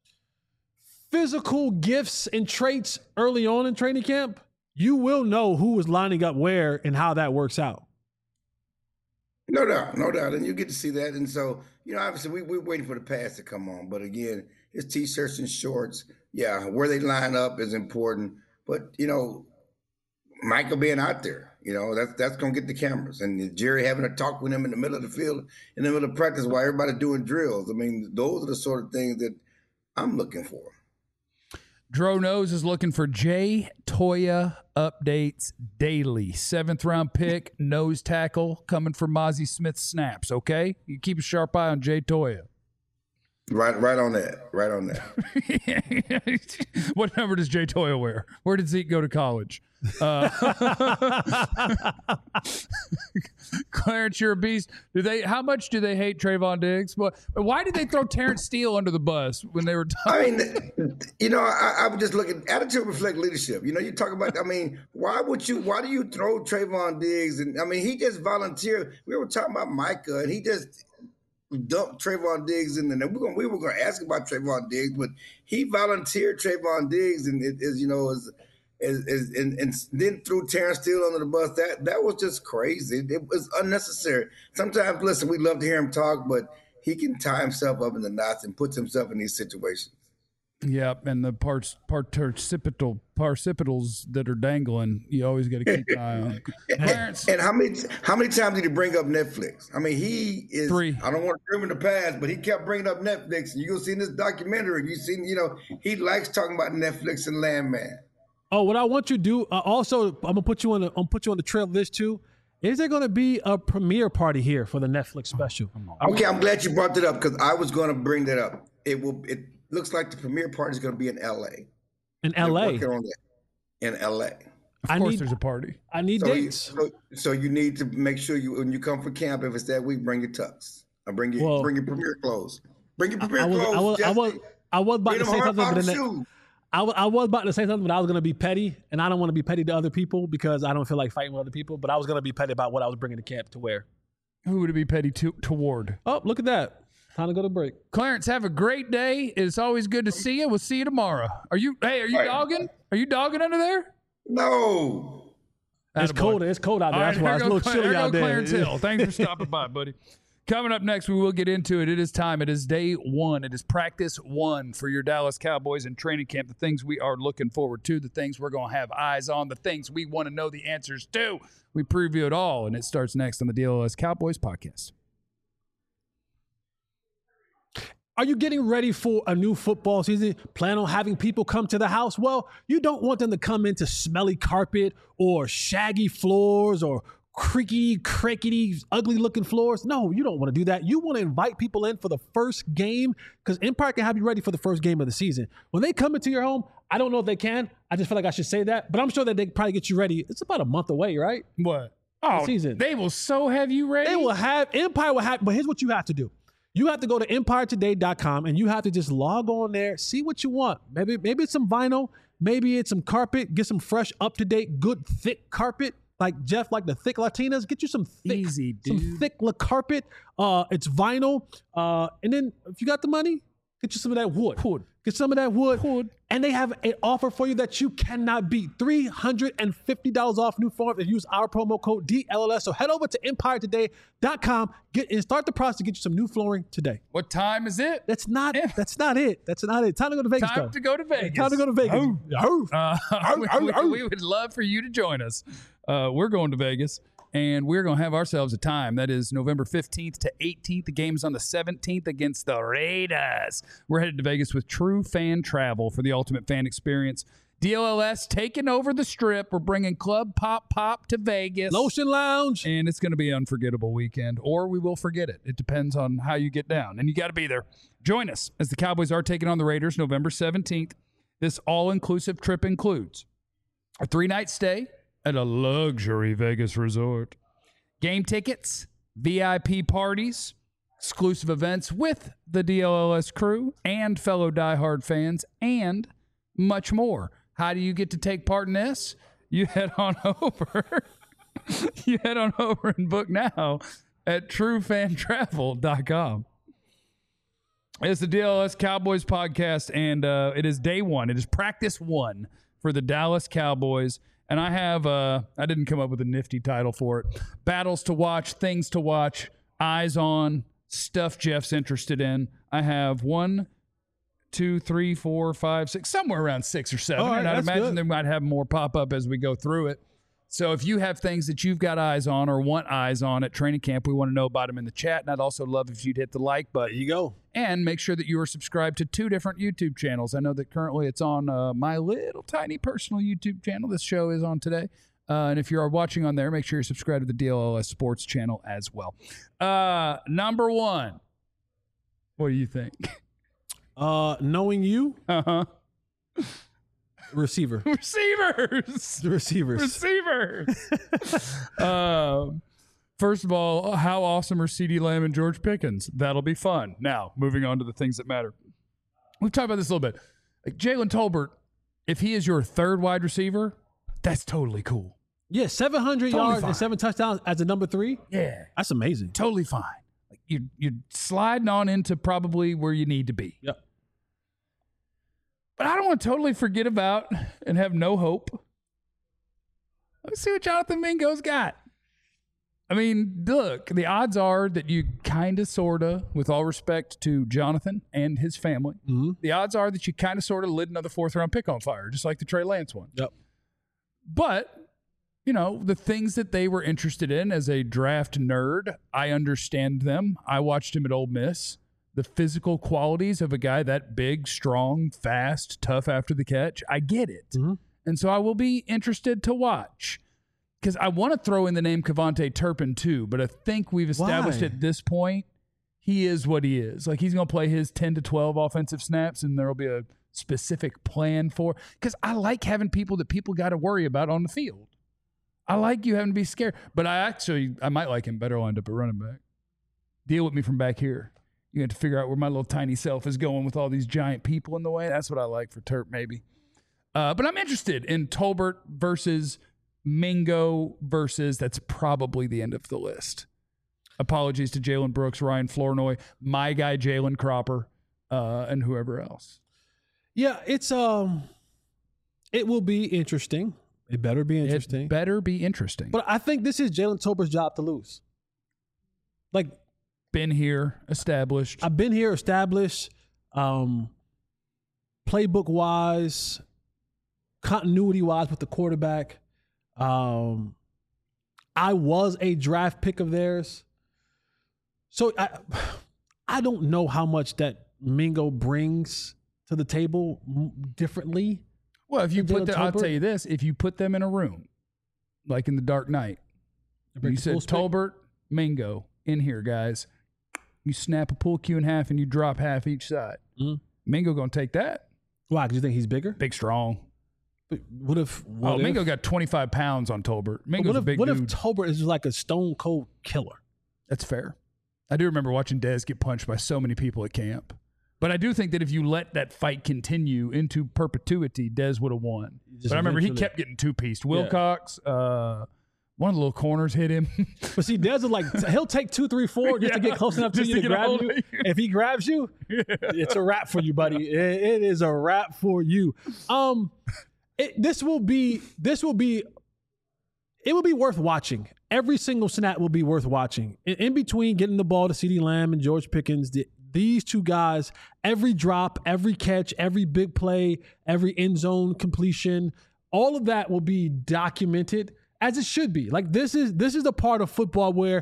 physical gifts and traits early on in training camp, you will know who is lining up where and how that works out. No doubt, no doubt. And you get to see that. And so, you know, obviously we, we're waiting for the pass to come on. But again, his T-shirts and shorts, yeah, where they line up is important. But, you know, Michael being out there, you know, that's that's going to get the cameras. And Jerry having a talk with him in the middle of the field, in the middle of practice while everybody's doing drills. I mean, those are the sort of things that I'm looking for. Dro Nose is looking for Jay Toya updates daily. Seventh round pick, nose tackle, coming for Mozzie Smith snaps, okay? You keep a sharp eye on Jay Toya. Right, right on that. Right on that. What number does Jay Toya wear? Where did Zeke go to college? Uh, Clarence, you're a beast. Do they? How much do they hate Trayvon Diggs? Well, why did they throw Terrence Steele under the bus when they were? I mean, you know, I, I would just look at attitude reflect leadership. You know, you talk about. I mean, why would you? Why do you throw Trayvon Diggs? And I mean, he just volunteered. We were talking about Micah, and he just dumped Trayvon Diggs in there. We were gonna, we were going to ask about Trayvon Diggs, but he volunteered Trayvon Diggs, and it is, you know, is. Is, is, and, and then threw Terrence Steele under the bus. That that was just crazy. It was unnecessary. Sometimes, listen, we love to hear him talk, but he can tie himself up in the knots and puts himself in these situations. Yep, and the parts participital participitals that are dangling, you always got to keep an eye on. Clarence, And how many how many times did he bring up Netflix? I mean, he is. Three. I don't want to throw him in the past, but he kept bringing up Netflix. And you go see in this documentary, you seen, you know, he likes talking about Netflix and Landman. Oh, what I want you to do, uh, also, I'm gonna put you on the, I'm gonna put you on the trail of this too. Is there gonna be a premiere party here for the Netflix special? Okay, I'm glad you brought that up because I was going to bring that up. It will. It looks like the premiere party is going to be in L A. In L A? They're working on that in L A. Of I course, need there's a party. I need So you, dates. so, so you need to make sure you when you come for camp, if it's that week, bring your tux. Or bring your Well, bring your premier clothes. Bring your I premier was, clothes. I was, I was, Jesse. I was about Bring to them say hard something, but bottom then shoes. I, wa- I was about to say something, but I was going to be petty, and I don't want to be petty to other people because I don't feel like fighting with other people. But I was going to be petty about what I was bringing to camp to wear. Who would it be petty to, toward? Oh, look at that! Time to go to break. Clarence, have a great day. It's always good to see you. We'll see you tomorrow. Are you? Hey, are you All right. dogging? Are you dogging under there? No. It's Attaboy. cold. It's cold out there. All That's right, why here it's a goes little Cla- chilly here out goes there. Clarence Hill. Thanks for stopping by, buddy. Coming up next, we will get into it. It is time. It is day one. It is practice one for your Dallas Cowboys in training camp. The things we are looking forward to, the things we're going to have eyes on, the things we want to know the answers to. We preview it all, and it starts next on the D L S Cowboys podcast. Are you getting ready for a new football season? Plan on having people come to the house? Well, you don't want them to come into smelly carpet or shaggy floors or creaky, crickety, ugly looking floors. No, you don't want to do that. You want to invite people in for the first game because Empire can have you ready for the first game of the season. When they come into your home, I don't know if they can. I just feel like I should say that, but I'm sure that they can probably get you ready. It's about a month away, right? What? Oh, season. they will so have you ready. They will have, Empire will have, but here's what you have to do. You have to go to empire today dot com and you have to just log on there, see what you want. Maybe maybe it's some vinyl, maybe it's some carpet, get some fresh, up-to-date, good, thick carpet. Like Jeff, like the thick Latinas, get you some thick, Easy, some dude. thick la carpet. Uh, it's vinyl. Uh, and then if you got the money, get you some of that wood. Wood. Get some of that wood. Wood. And they have an offer for you that you cannot beat. three hundred fifty dollars off new form if you use our promo code D L L S. So head over to empire today dot com get, and start the process to get you some new flooring today. What time is it? That's not Yeah. that's not it. That's not it. Time to go to Vegas, Time though. to go to Vegas. Time to go to Vegas. Oh. Uh, we, ow, we- ow. we would love for you to join us. Uh, we're going to Vegas, and we're going to have ourselves a time. That is November fifteenth to eighteenth. The game's on the seventeenth against the Raiders. We're headed to Vegas with True Fan Travel for the ultimate fan experience. D L L S taking over the Strip. We're bringing Club Pop Pop to Vegas. Lotion Lounge. And it's going to be an unforgettable weekend, or we will forget it. It depends on how you get down, and you got to be there. Join us as the Cowboys are taking on the Raiders November seventeenth. This all-inclusive trip includes a three-night stay at a luxury Vegas resort, game tickets, V I P parties, exclusive events with the D L L S crew and fellow diehard fans, and much more. How do you get to take part in this? You head on over. you head on over and book now at true fan travel dot com. It's the D L S Cowboys podcast, and uh, it is day one. It is practice one for the Dallas Cowboys. And I have, uh, I didn't come up with a nifty title for it. Battles to watch, things to watch, eyes on, stuff Jeff's interested in. I have one, two, three, four, five, six, somewhere around six or seven. All right, and I'd that's imagine good. they might have more pop up as we go through it. So if you have things that you've got eyes on or want eyes on at training camp, we want to know about them in the chat. And I'd also love if you'd hit the like button. There you go. And make sure that you are subscribed to two different YouTube channels. I know that currently it's on uh, my little tiny personal YouTube channel. This show is on today. Uh, and if you are watching on there, make sure you're subscribed to the D L L S Sports channel as well. Uh, number one. What do you think? Uh, knowing you, Uh-huh. receiver. Receivers. The receivers. Receivers. um, first of all, how awesome are CeeDee Lamb and George Pickens? That'll be fun. Now, moving on to the things that matter. We've talked about this a little bit. Like Jalen Tolbert, if he is your third wide receiver, that's totally cool. Yeah, seven hundred Totally yards fine. and seven touchdowns as a number three. Yeah. That's amazing. Totally fine. Like you, you're sliding on into probably where you need to be. Yep. But I don't want to totally forget about and have no hope. Let's see what Jonathan Mingo's got. I mean, look, the odds are that you kind of, sort of, with all respect to Jonathan and his family, Mm-hmm. the odds are that you kind of, sort of lit another fourth round pick on fire, just like the Trey Lance one. Yep. But, you know, the things that they were interested in as a draft nerd, I understand them. I watched him at Ole Miss. The physical qualities of a guy that big, strong, fast, tough after the catch, I get it. Mm-hmm. And so I will be interested to watch. Because I want to throw in the name Kevontae Turpin too, but I think we've established Why? at this point he is what he is. Like, he's going to play his ten to twelve offensive snaps, and there will be a specific plan for. Because I like having people that people got to worry about on the field. I like you having to be scared. But I actually, I might like him better lined up at running back. Deal with me from back here. You have to figure out where my little tiny self is going with all these giant people in the way. That's what I like for Turp, maybe. Uh, but I'm interested in Tolbert versus Mingo versus, that's probably the end of the list. Apologies to Jalen Brooks, Ryan Flournoy, my guy Jalen Cropper, uh, and whoever else. Yeah, it's um, it will be interesting. It better be interesting. It better be interesting. But I think this is Jalen Tolbert's job to lose. Like, been here, established. I've been here, established, um, playbook wise, continuity wise with the quarterback. Um, I was a draft pick of theirs. So I, I don't know how much that Mingo brings to the table differently. Well, if you than put Jalen them, I'll Tolbert. tell you this: if you put them in a room, like in the Dark Knight, break you the said full spec- Tolbert, Mingo in here, guys. You snap a pull cue in half and you drop half each side. Mhm. Mingo gonna take that. Why? Because you think he's bigger? Big, strong. But what if? What oh, if, Mingo got twenty-five pounds on Tolbert. but Mingo's what a if, big what dude. if Tolbert is just like a stone cold killer? That's fair. I do remember watching Dez get punched by so many people at camp. But I do think that if you let that fight continue into perpetuity, Dez would have won. Just But I remember he eventually- kept getting two-pieced. Wilcox, uh, one of the little corners hit him. But see, Dez is like, he'll take two, three, four just to Yeah, get close enough to just you to to, get a grab hold you. of you. If he grabs you, it's a wrap for you, buddy. It- it is a wrap for you. Um, it, this will be, this will be, it will be worth watching. Every single snap will be worth watching. In, in between getting the ball to CeeDee Lamb and George Pickens, the, these two guys, every drop, every catch, every big play, every end zone completion, all of that will be documented as it should be. Like, this is this is the part of football where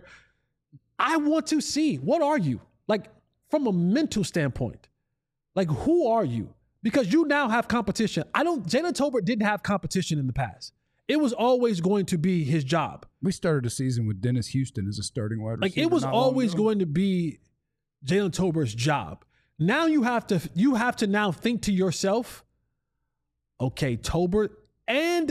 I want to see, what are you? Like, from a mental standpoint, like, who are you? Because you now have competition. I don't, Jalen Tolbert didn't have competition in the past. It was always going to be his job. We started a season with Dennis Houston as a starting wide Like, receiver. it was not long always ago. going to be Jalen Tolbert's job. Now you have to you have to now think to yourself, okay, Tolbert, and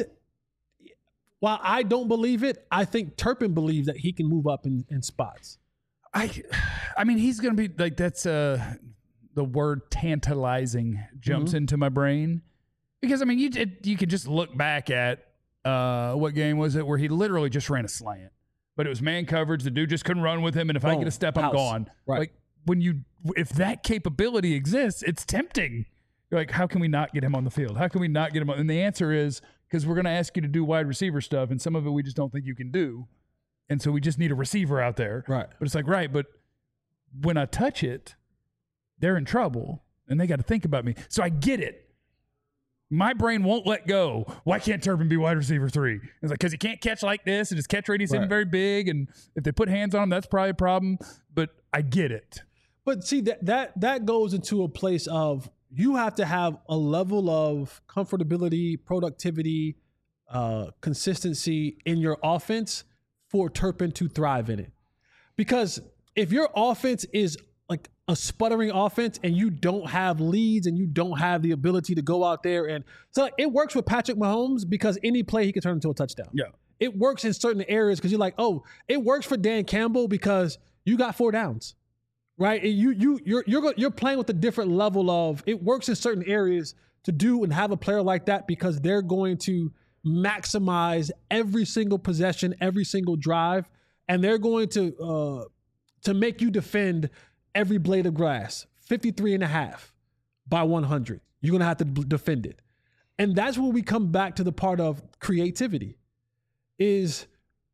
while I don't believe it, I think Turpin believes that he can move up in, in spots. I, I mean, he's going to be like, that's uh, the word tantalizing jumps Mm-hmm. into my brain. Because, I mean, you it, you could just look back at uh, what game was it where he literally just ran a slant. But it was man coverage. The dude just couldn't run with him. And if I Boom. get a step, I'm House. gone. Right. Like, when you, if that capability exists, it's tempting. You're like, how can we not get him on the field? How can we not get him on? And the answer is because we're going to ask you to do wide receiver stuff. And some of it we just don't think you can do. And so we just need a receiver out there. Right. But it's like, right, but when I touch it, they're in trouble and they got to think about me. So I get it. My brain won't let go. Why can't Turpin be wide receiver three? It's like, because he can't catch like this and his catch radius isn't Right. very big. And if they put hands on him, that's probably a problem. But I get it. But see, that that that goes into a place of you have to have a level of comfortability, productivity, uh, consistency in your offense for Turpin to thrive in it. Because if your offense is like a sputtering offense and you don't have leads and you don't have the ability to go out there and so like, it works with Patrick Mahomes because any play he can turn into a touchdown. Yeah. It works in certain areas because you're like, oh, it works for Dan Campbell because you got four downs. Right, and you you you're you're go- you're playing with a different level of it works in certain areas to do and have a player like that because they're going to maximize every single possession, every single drive, and they're going to uh, to make you defend every blade of grass, fifty-three and a half by one hundred. You're gonna have to b- defend it, and that's where we come back to the part of creativity. Is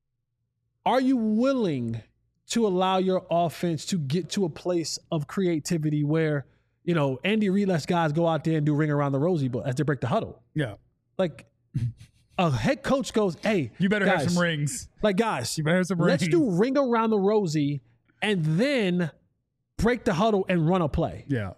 are you willing to allow your offense to get to a place of creativity where, you know, Andy Reid lets guys go out there and do ring around the rosy, but as they break the huddle, Yeah. like a head coach goes, "Hey, You better guys, have some rings. Like guys, You better have some let's rings. do ring around the rosy and then break the huddle and run a play." Yeah.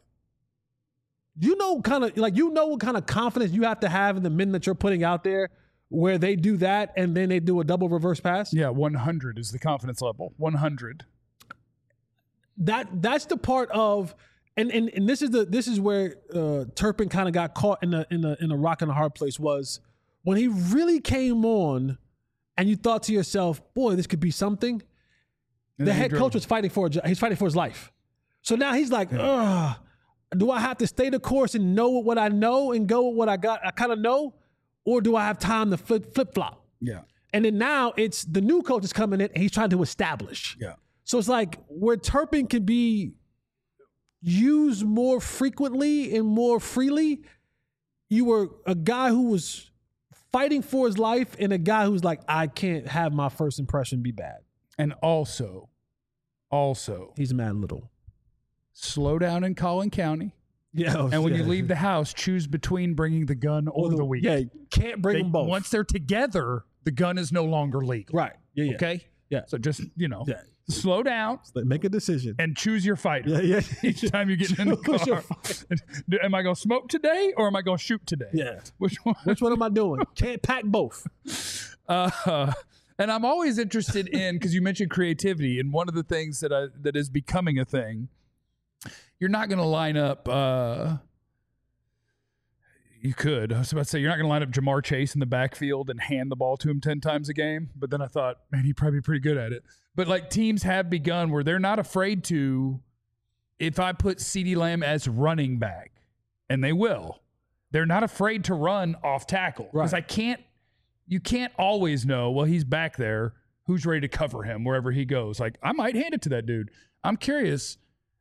You know, kind of like you know what kind of confidence you have to have in the men that you're putting out there, where they do that and then they do a double reverse pass. Yeah. one hundred is the confidence level. one hundred. that that's the part of and and, and this is the this is where uh, Turpin kind of got caught in a in a in a rock and a hard place was when he really came on, and you thought to yourself, "Boy, this could be something." And The then he head drove- coach was fighting for a jo- he's fighting for his life. So now he's like, ugh, do I have to stay the course and know what I know and go with what I got? I kind of know, or do I have time to flip flip flop? Yeah. And then now it's the new coach is coming in and he's trying to establish. Yeah. So it's like where Turpin can be used more frequently and more freely. You were a guy who was fighting for his life and a guy who's like, I can't have my first impression be bad. And also, also, He's mad little. slow down in Collin County. Yeah. And when yeah. you leave the house, choose between bringing the gun or the weed. Yeah, you can't bring They- them both. Once they're together, the gun is no longer legal. right. Yeah, yeah. Okay? Yeah. So just, you know, Yeah. slow down Like, make a decision. and choose your fighter. Yeah, yeah. Each time you get in the Choose your car. Am I going to smoke today or am I going to shoot today? Yeah. Which one? Which one am I doing? Can't pack both. Uh, and I'm always interested in, because you mentioned creativity, and one of the things that I, that is becoming a thing, you're not going to line up. Uh, you could. I was about to say you're not going to line up Jamar Chase in the backfield and hand the ball to him ten times a game. But then I thought, man, he'd probably be pretty good at it. But like teams have begun where they're not afraid to. If I put CeeDee Lamb as running back, and they will, they're not afraid to run off tackle because Right. I can't. You can't always know, well, he's back there, who's ready to cover him wherever he goes. Like, I might hand it to that dude. I'm curious,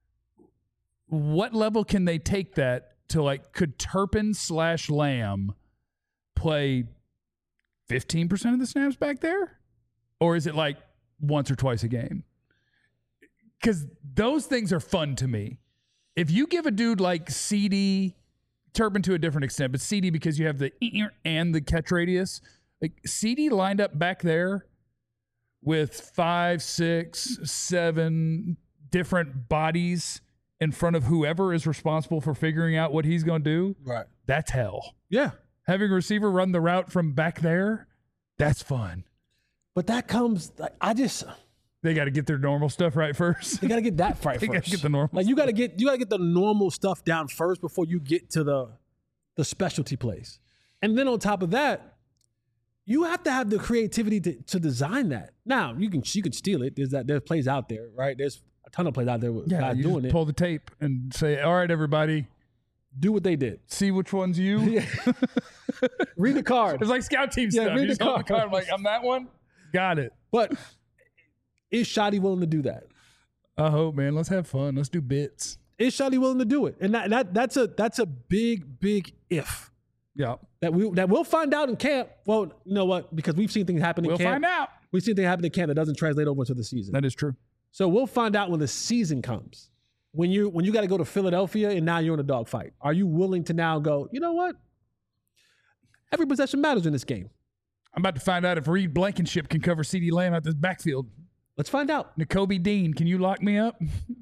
what level can they take that to, like, could Turpin slash Lamb play fifteen percent of the snaps back there? Or is it like once or twice a game? Because those things are fun to me. If you give a dude like CeeDee, Turpin to a different extent, but CeeDee because you have the and the catch radius, like CeeDee lined up back there with five, six, seven different bodies in front of whoever is responsible for figuring out what he's going to do. Right. That's hell. Yeah. Having a receiver run the route from back there, that's fun. But that comes, like, I just, They got to get their normal stuff right first. you got to get that right They first. gotta get the normal Like, you got to get, you got to get the normal stuff down first before you get to the, the specialty plays. And then on top of that, you have to have the creativity to, to design that. Now, you can, you can steal it. There's that, there's plays out there, right? There's a ton of plays out there with Yeah, guys you doing just it. pull the tape and say, all right, everybody, Do what they did. see which one's you. Read the card. It's like scout team Yeah, stuff. read You the just hold the card. card. I'm like, I'm that one. Got it. But is Shotty willing to do that? I hope, man. Let's have fun. Let's do bits. Is Shotty willing to do it? And that, that that's a that's a big, big if. Yeah. That we that we'll find out in camp. Well, you know what? Because we've seen things happen in We'll camp. find out. We've seen things happen in camp that doesn't translate over to the season. That is true. So we'll find out when the season comes. When you when you got to go to Philadelphia and now you're in a dogfight. Are you willing to now go, you know what? Every possession matters in this game. I'm about to find out if Reed Blankenship can cover CeeDee Lamb out this backfield. Let's find out. N'Kobe Dean, can you lock me up?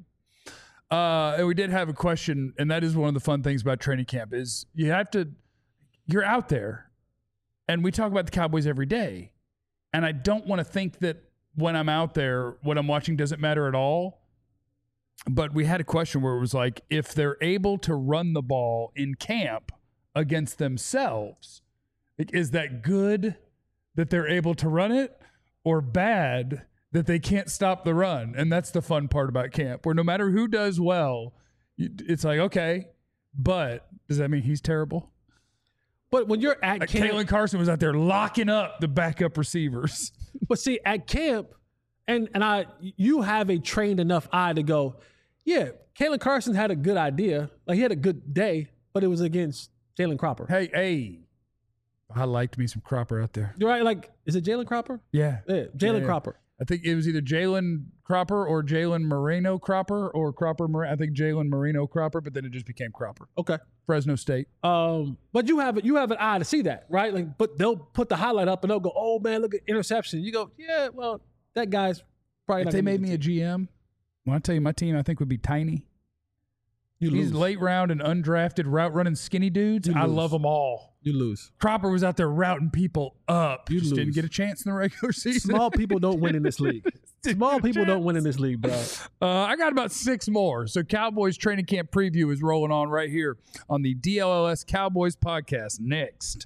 uh, and we did have a question, and that is one of the fun things about training camp is you have to, you're out there, and we talk about the Cowboys every day, and I don't want to think that when I'm out there, what I'm watching doesn't matter at all. But we had a question where it was like, if they're able to run the ball in camp against themselves, like, is that good that they're able to run it, or bad that they can't stop the run? And that's the fun part about camp, where no matter who does well, you- it's like, okay, but does that mean he's terrible? But when you're at Like camp, Kalen Carson was out there locking up the backup receivers. but see, at camp, and and I, you have a trained enough eye to go, yeah, Kalen Carson had a good idea, like he had a good day, but it was against Jalen Cropper. Hey, hey, I liked me some Cropper out there. You're right. Like, is it Jalen Cropper? Yeah. Yeah, Jalen Yeah, yeah. Cropper. I think it was either Jalen Cropper or Jalen Moreno Cropper or Cropper. Mor- I think Jalen Moreno Cropper, but then it just became Cropper. Okay. Fresno State. Um, but you have you have an eye to see that, right? Like, but they'll put the highlight up and they'll go, "Oh man, look at interception." You go, "Yeah, well, that guy's probably." If not they gonna made make me a the team." G M, when I tell you my team, I think would be tiny. You These lose. late round and undrafted route running skinny dudes, You I lose. love them all. You lose. Cropper was out there routing people up. You Just didn't lose. get a chance in the regular season. Small people don't win in this league. Didn't Small get a people don't chance. win in this league, bro. Uh, I got about six more. So Cowboys training camp preview is rolling on right here on the D L L S Cowboys podcast next.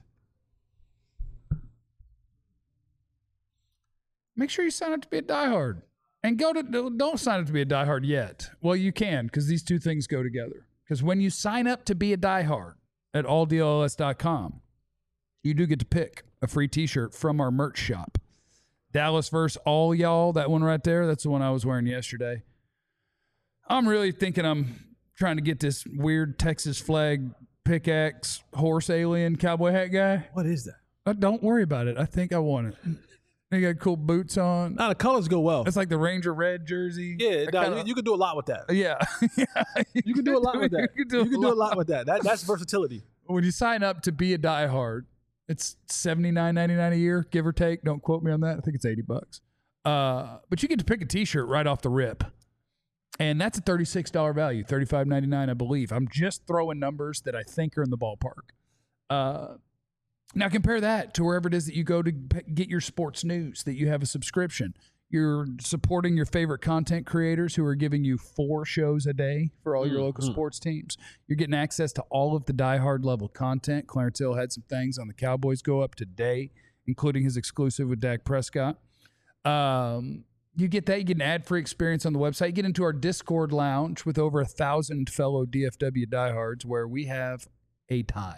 Make sure you sign up to be a diehard. And go to don't sign up to be a diehard yet. Well, you can, because these two things go together. Because when you sign up to be a diehard at all D L L S dot com, you do get to pick a free t-shirt from our merch shop. Dallas versus all y'all, that one right there, that's the one I was wearing yesterday. I'm really thinking I'm trying to get this weird Texas flag pickaxe horse alien cowboy hat guy. What is that? Uh, don't worry about it. I think I want it. They got cool boots on. Nah, the colors go well. It's like the Ranger red jersey. Yeah, I nah, kinda- you, you can do a lot with that. yeah. yeah. You can do a lot with that. You can do, You can do a lot with that. That that's versatility. When you sign up to be a diehard, it's seventy-nine ninety-nine a year, give or take. Don't quote me on that. I think it's eighty bucks. Uh, but you get to pick a t-shirt right off the rip. And that's a thirty-six dollars value, thirty-five ninety-nine, I believe. I'm just throwing numbers that I think are in the ballpark. Uh, now compare that to wherever it is that you go to p- get your sports news, that you have a subscription. You're supporting your favorite content creators who are giving you four shows a day for all your local sports teams. You're getting access to all of the diehard level content. Clarence Hill had some things on the Cowboys go up today, including his exclusive with Dak Prescott. Um, you get that. You get an ad-free experience on the website. You get into our Discord lounge with over a thousand fellow D F W diehards where we have a time.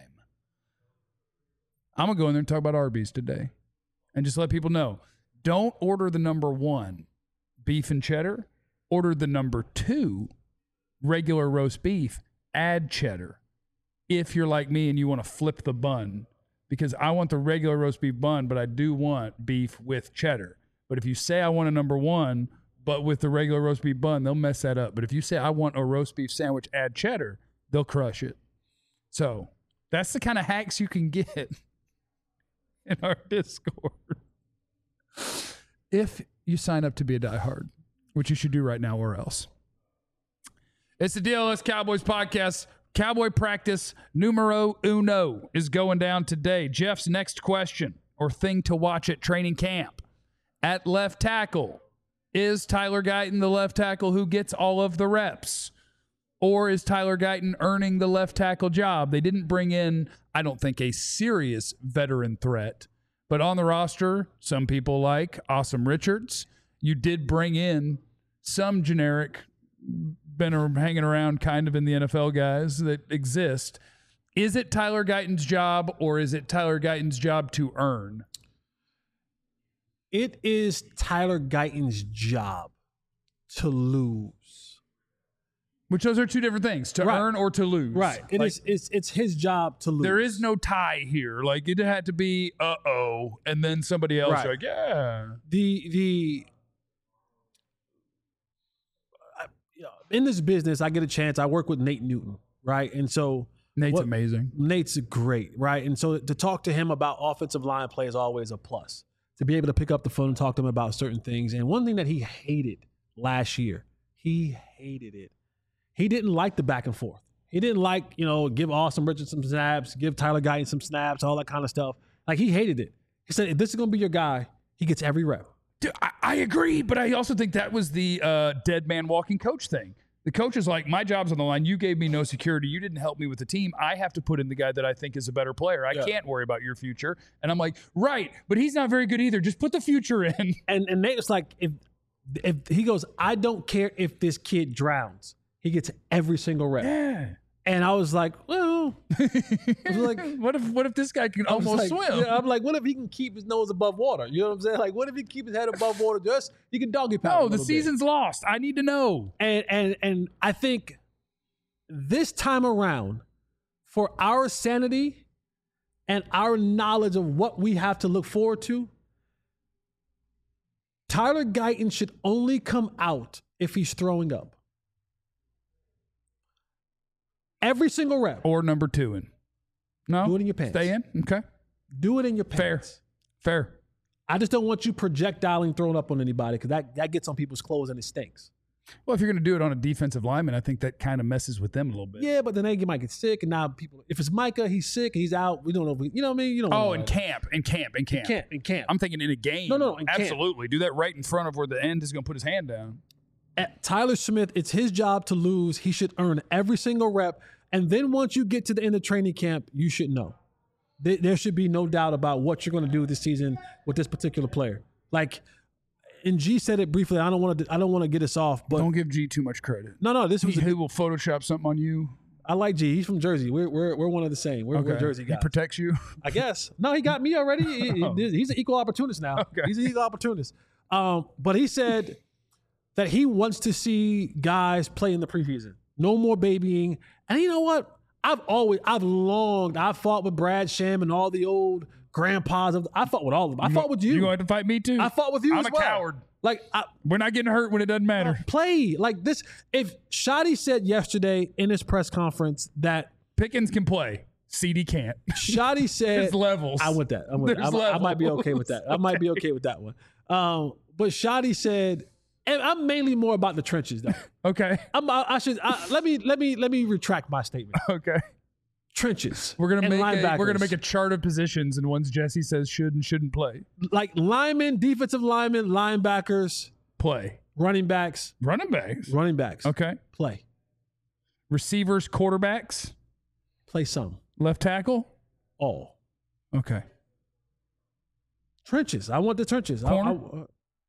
I'm going to go in there and talk about Arby's today and just let people know. Don't order the number one, beef and cheddar. Order the number two, regular roast beef, add cheddar. If you're like me and you want to flip the bun, because I want the regular roast beef bun, but I do want beef with cheddar. But if you say I want a number one, but with the regular roast beef bun, they'll mess that up. But if you say I want a roast beef sandwich, add cheddar, they'll crush it. So that's the kind of hacks you can get in our Discord. If you sign up to be a diehard, which you should do right now or else. It's the D L S Cowboys podcast. Cowboy practice numero uno is going down today. Jeff's next question or thing to watch at training camp. At left tackle, is Tyler Guyton the left tackle who gets all of the reps? Or is Tyler Guyton earning the left tackle job? They didn't bring in, I don't think, a serious veteran threat. But on the roster, some people like Awesome Richards. You did bring in some generic, been hanging around kind of in the N F L guys that exist. Is it Tyler Guyton's job or is it Tyler Guyton's job to earn? It is Tyler Guyton's job to lose. Which those are two different things, to Right. earn or to lose. Right. It Like, is. It's it's his job to lose. there is no tie here. Like it had to be uh-oh, and then somebody else Right. like, yeah. the the I- you know, in this business. I get a chance. I work with Nate Newton, right? And so Nate's what- amazing. Nate's great, right? And so to talk to him about offensive line play is always a plus. To be able to pick up the phone and talk to him about certain things. And one thing that he hated last year, he hated it. He didn't like the back and forth. He didn't like, you know, give Austin Richards some snaps, give Tyler Guyton some snaps, all that kind of stuff. Like he hated it. He said, if this is going to be your guy, he gets every rep. Dude, I, I agree, but I also think that was the uh, dead man walking coach thing. The coach is like, my job's on the line. You gave me no security. You didn't help me with the team. I have to put in the guy that I think is a better player. I Yeah. can't worry about your future. And I'm like, right, but he's not very good either. Just put the future in. And and Nate was like, if if he goes, I don't care if this kid drowns. He gets every single rep. Yeah. And I was like, well, I was like, what if what if this guy can I was almost like, swim? yeah, I'm like, what if he can keep his nose above water? You know what I'm saying? Like, what if he keep his head above water? Just he can doggy paddle. a No, the little bit. season's lost. I need to know. And and and I think this time around, for our sanity and our knowledge of what we have to look forward to, Tyler Guyton should only come out if he's throwing up. Every single rep. Or number two in. No? Do it in your pants. Stay in? Okay. Do it in your Fair. pants. Fair. I just don't want you projectiling throwing up on anybody because that, that gets on people's clothes and it stinks. Well, if you're going to do it on a defensive lineman, I think that kind of messes with them a little bit. Yeah, but then they might get sick, and now people. If it's Micah, he's sick, he's out. We don't know. If we, you know what I mean? You don't. Oh, know in that. camp, in camp, in camp. In camp, in camp. I'm thinking in a game. No, no, in camp. absolutely. Do that right in front of where the end is going to put his hand down. At Tyler Smith, it's his job to lose. He should earn every single rep, and then once you get to the end of training camp, you should know. There, there should be no doubt about what you're going to do this season with this particular player. Like. And G said it briefly. I don't want to. I don't want to get us off, but Don't give G too much credit. no, no. This was. He, A, he will Photoshop something on you. I like G. He's from Jersey. We're we're we're one of the same. We're, we're Jersey He guys. protects you. I guess. No, he got me already. He- Oh. he- he's an equal opportunist now. Okay. He's an equal opportunist. Um, but he said that he wants to see guys play in the preseason. No more babying. And you know what? I've always, I've longed. I fought with Brad Sham and all the old grandpas. Of, I fought with all of them. I fought with you. You going to fight me too? I fought with you I'm as a well. coward. Like I, We're not getting hurt when it doesn't matter. play like this. If Shotty said yesterday in his press conference that Pickens can play. C D can't. Shotty said There's levels. I want that. I, want that. There's I, I might be levels. okay with that. I might be okay with that one. Um, but Shotty said, and I'm mainly more about the trenches though. Okay. I'm, I, I should I, let me let me let me retract my statement. Okay. Trenches. We're gonna and make a, we're gonna linebackers. make a chart of positions and ones Jesse says should and shouldn't play. like linemen, defensive linemen, linebackers, Play. running backs, Running backs. running backs. Okay. Play, Receivers, quarterbacks, play some, left tackle. all Okay. trenches. I want the trenches. I, Corner? I,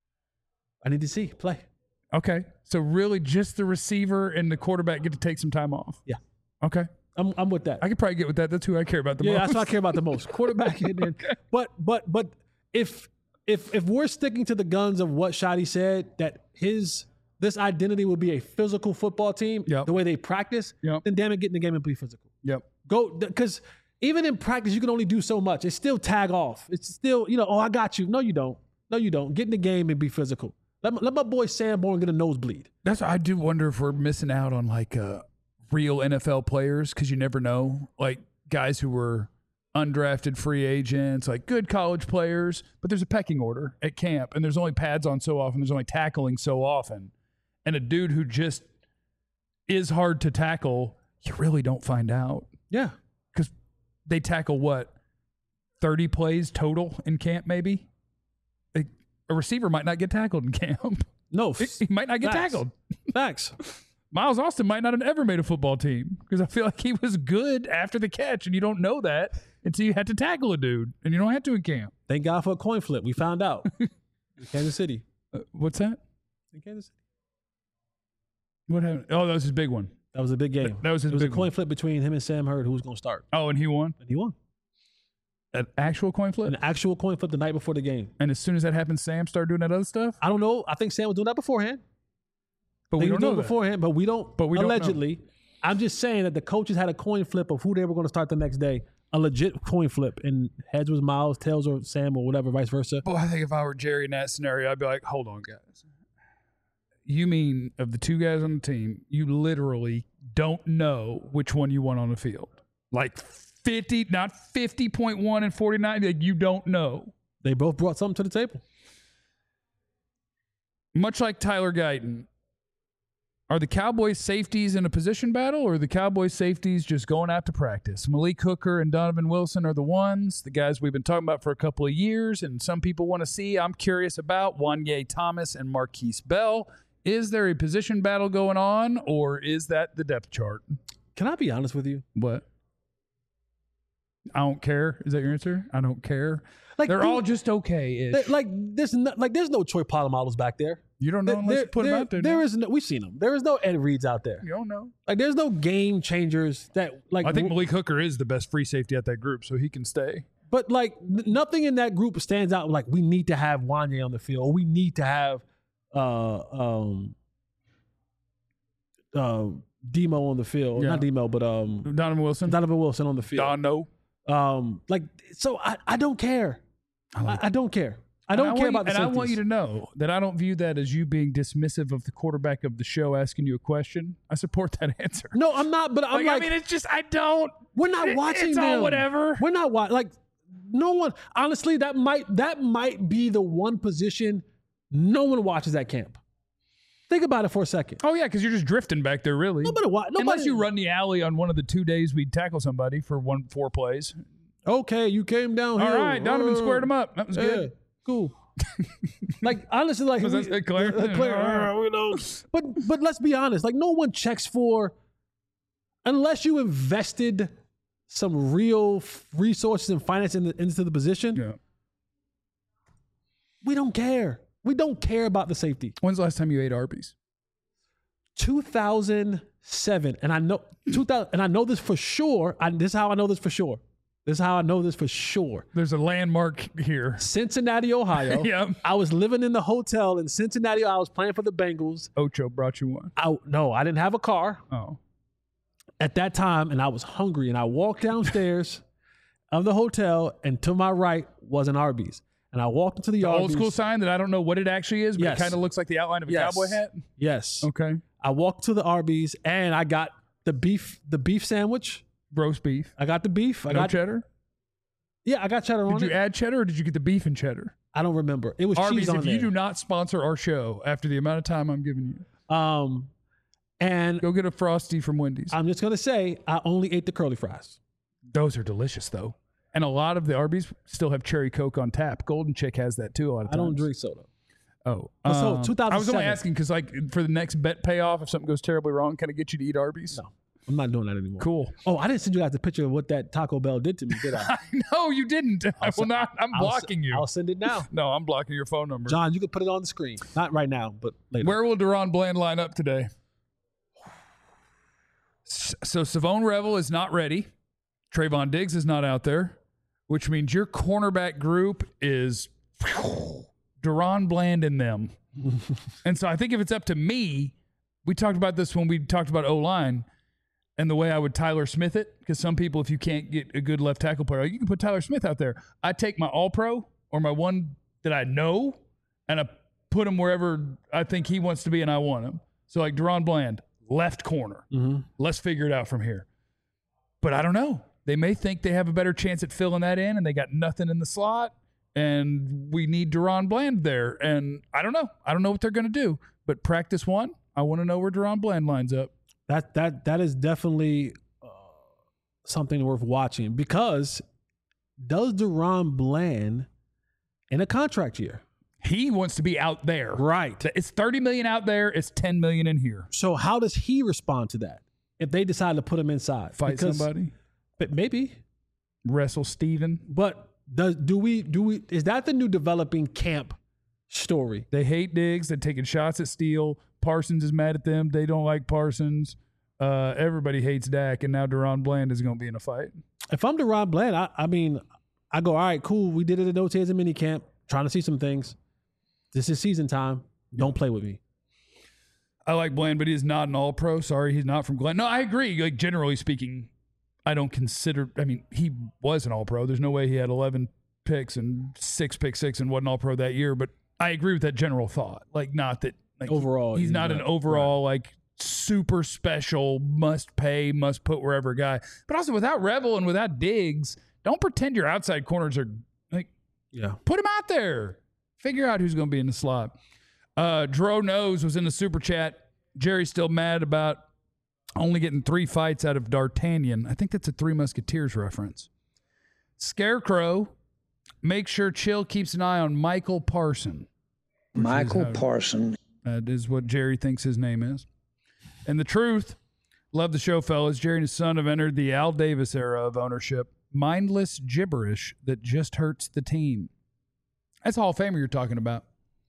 I need to see play. Okay. So really just the receiver and the quarterback get to take some time off. Yeah. Okay. I'm I'm with that. I could probably get with that. That's who I care about the yeah, most. that's what I care about the most. Quarterback and then, but but but if if if we're sticking to the guns of what Shotty said, that his this identity will be a physical football team, Yep. the way they practice, Yep. then damn it, get in the game and be physical. Yep. Go because even in practice, you can only do so much. It's still tag off. It's still, you know, oh, I got you. No, you don't. No, you don't. Get in the game and be physical. Let my, let my boy Sanborn get a nosebleed. That's I do wonder if we're missing out on like uh, real N F L players because you never know, like guys who were undrafted free agents, like good college players, but there's a pecking order at camp, and there's only pads on so often, there's only tackling so often, and a dude who just is hard to tackle, you really don't find out Yeah. because they tackle what thirty plays total in camp, maybe. A, a receiver might not get tackled in camp. No. He might not get Facts. tackled. Facts. Miles Austin might not have ever made a football team because I feel like he was good after the catch, and you don't know that until you had to tackle a dude, and you don't have to in camp. Thank God for a coin flip. We found out. In Kansas City. Uh, what's that? In Kansas City. What happened? Oh, that was his big one. That was a big game. That was his It was a big coin one. flip between him and Sam Hurd, who was going to start. Oh, and he won And he won. an actual coin flip. An actual coin flip the night before the game. And as soon as that happened, Sam started doing that other stuff. I don't know. I think Sam was doing that beforehand. But They we were don't doing know it that. beforehand, but we don't. But we don't know. allegedly. I'm just saying that the coaches had a coin flip of who they were going to start the next day. A legit coin flip, and heads was Miles, tails or Sam or whatever, vice versa. Boy, I think if I were Jerry in that scenario, I'd be like, "Hold on, guys. You mean of the two guys on the team, you literally don't know which one you want on the field? Like fifty, not fifty point one and forty nine. Like you don't know." They both brought something to the table. Much like Tyler Guyton, are the Cowboys safeties in a position battle, or are the Cowboys safeties just going out to practice? Malik Hooker and Donovan Wilson are the ones, the guys we've been talking about for a couple of years, and some people want to see. I'm curious about Wanye Thomas and Marquise Bell. Is there a position battle going on, or is that the depth chart? Can I be honest with you? What? I don't care. Is that your answer? I don't care. Like They're dude, all just okay-ish. they- like there's no, like there's no Troy Polamalu's back there. You don't know There- unless there- you put them there- out there. There now. is no. We've seen them. There is no Ed Reeds out there. You don't know. Like there's no game changers that like. I think w- Malik Hooker is the best free safety at that group, so he can stay. But like n- nothing in that group stands out. Like we need to have Wanye on the field. Or we need to have uh um uh Demo on the field. Yeah. Not Demo, but um Donovan Wilson. Donovan Wilson on the field. Don, no. Um like so I, I don't care. I like I, I don't care. I And don't care want you- about the And I want you safeties. to know that I don't view that as you being dismissive of the quarterback of the show asking you a question. I support that answer. No, I'm not, but I'm Like, like, I mean, it's just I don't. we're not it- watching it's them. all whatever. We're not watching. Like, no one. Honestly, that might that might be the one position no one watches at camp. Think about it for a second. Oh, yeah, because you're just drifting back there, really. Nobody, wa- nobody, Unless you run the alley on one of the two days we tackle somebody for one four plays. Okay, you came down here. All right, Donovan Uh, squared him up. That was Yeah, good. cool. Like honestly, like Was we- that clear? uh, clear, Yeah. uh, you know. But but let's be honest. Like no one checks for unless you invested some real f- resources and finance in the, into the position. Yeah. We don't care. We don't care about the safety. When's the last time you ate Arby's? two thousand seven, and I know two thousand, and I know this for sure. I, this is how I know this for sure. This is how I know this for sure. There's a landmark here. Cincinnati, Ohio. Yep. I was living in the hotel in Cincinnati. I was playing for the Bengals. Ocho brought you one. I, no, I didn't have a car Oh. at that time, and I was hungry. And I walked downstairs of the hotel, and to my right was an Arby's. And I walked into the, The Arby's. old school sign that I don't know what it actually is, but Yes. it kind of looks like the outline of a Yes. cowboy hat. Yes. Okay. I walked to the Arby's, and I got the beef, the beef sandwich. Roast beef. I got the beef. I No got cheddar? Yeah, I got cheddar on Did you it. add cheddar or did you get the beef and cheddar? I don't remember. It was Arby's, cheese on if there. you do not sponsor our show after the amount of time I'm giving you, um, and go get a Frosty from Wendy's. I'm just gonna say I only ate the curly fries. Those are delicious, though. And a lot of the Arby's still have cherry Coke on tap. Golden Chick has that, too, a lot of I times. don't drink soda. Oh. But so, um, two thousand seven. I was only asking because, like, for the next bet payoff, if something goes terribly wrong, can I get you to eat Arby's? No, I'm not doing that anymore. Cool. Oh, I didn't send you guys the picture of what that Taco Bell did to me, did I? No, you didn't. I will not. I'm I'll s- blocking you. I'll send it now. No, I'm blocking your phone number. John, you can put it on the screen. Not right now, but later. Where will Deron Bland line up today? S- So Savone Revel is not ready. Trayvon Diggs is not out there, which means your cornerback group is Deron Bland and them. And so I think if it's up to me, we talked about this when we talked about O-line and the way I would Tyler Smith it, because some people, if you can't get a good left tackle player, you can put Tyler Smith out there. I take my all-pro or my one that I know and I put him wherever I think he wants to be and I want him. So like Deron Bland, left corner. Mm-hmm. Let's figure it out from here. But I don't know. They may think they have a better chance at filling that in and they got nothing in the slot and we need Deron Bland there. And I don't know. I don't know what they're going to do. But practice one, I want to know where Deron Bland lines up. That that that is definitely uh, something worth watching because does Deron Bland in a contract year? He wants to be out there. Right. It's thirty million out there. It's ten million in here. So how does he respond to that if they decide to put him inside? Fight Because- somebody. But maybe. Wrestle Steven. But does do we do we is that the new developing camp story? They hate Diggs. They're taking shots at Steele. Parsons is mad at them. They don't like Parsons. Uh, everybody hates Dak, and now Deron Bland is going to be in a fight. If I'm Deron Bland, I, I mean, I go, all right, cool. We did it at O T As and minicamp, trying to see some things. This is season time. Don't play with me. I like Bland, but he is not an all-pro. Sorry, he's not from Glenn. No, I agree. Like, generally speaking, I don't consider – I mean, he was an all-pro. There's no way he had eleven picks and six pick six and wasn't all-pro that year. But I agree with that general thought. Like, not that like, – Overall, He's he's not an not- overall, like, super special, must-pay, must-put wherever guy. But also, without Revel and without Diggs, don't pretend your outside corners are – like, Yeah. put him out there. Figure out who's going to be in the slot. Uh, Dro Knows was in the super chat. Jerry's still mad about only getting three fights out of D'Artagnan. I think that's a Three Musketeers reference. Scarecrow, make sure Chill keeps an eye on Michael Parson. Michael how- Parson. That is what Jerry thinks his name is. And the truth, love the show, fellas. Jerry and his son have entered the Al Davis era of ownership. Mindless gibberish that just hurts the team. That's Hall of Famer you're talking about.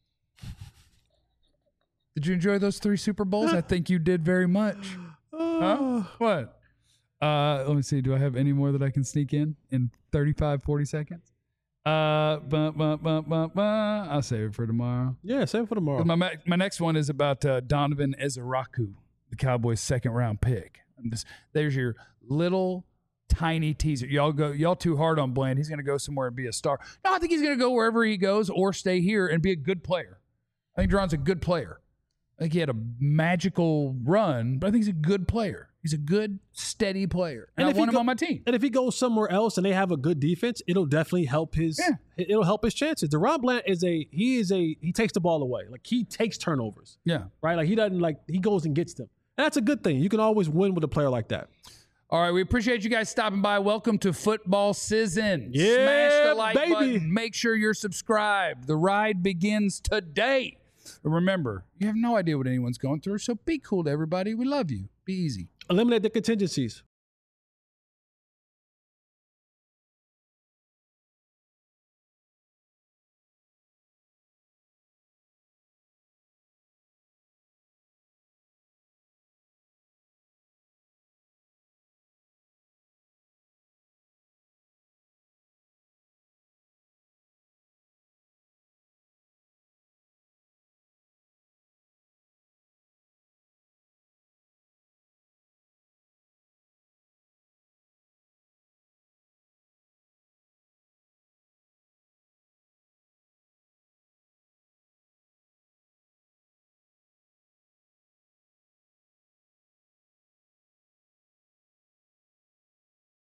Did you enjoy those three Super Bowls? I think you did very much. Huh? What? Uh, let me see. Do I have any more that I can sneak in in thirty-five, forty seconds? Uh, bum, bum, bum, bum, bum. I'll save it for tomorrow. Yeah, same for tomorrow. My, ma- my next one is about uh, Donovan Ezeraku, the Cowboys' second round pick. I'm just, there's your little tiny teaser. Y'all go, y'all too hard on Bland. He's going to go somewhere and be a star. No, I think he's going to go wherever he goes or stay here and be a good player. I think Deron's a good player. I think he had a magical run, but I think he's a good player. He's a good, steady player. And, And I if he want him go- on my team. And if he goes somewhere else and they have a good defense, it'll definitely help his. Yeah. It'll help his chances. DeRon Bland is a he is a he takes the ball away. Like he takes turnovers, Yeah. right? Like he doesn't like he goes and gets them. And that's a good thing. You can always win with a player like that. All right, we appreciate you guys stopping by. Welcome to football season. Yeah, Smash the like baby. button. Make sure you're subscribed. The ride begins today. But remember, you have no idea what anyone's going through, so be cool to everybody. We love you. Be easy. Eliminate the contingencies.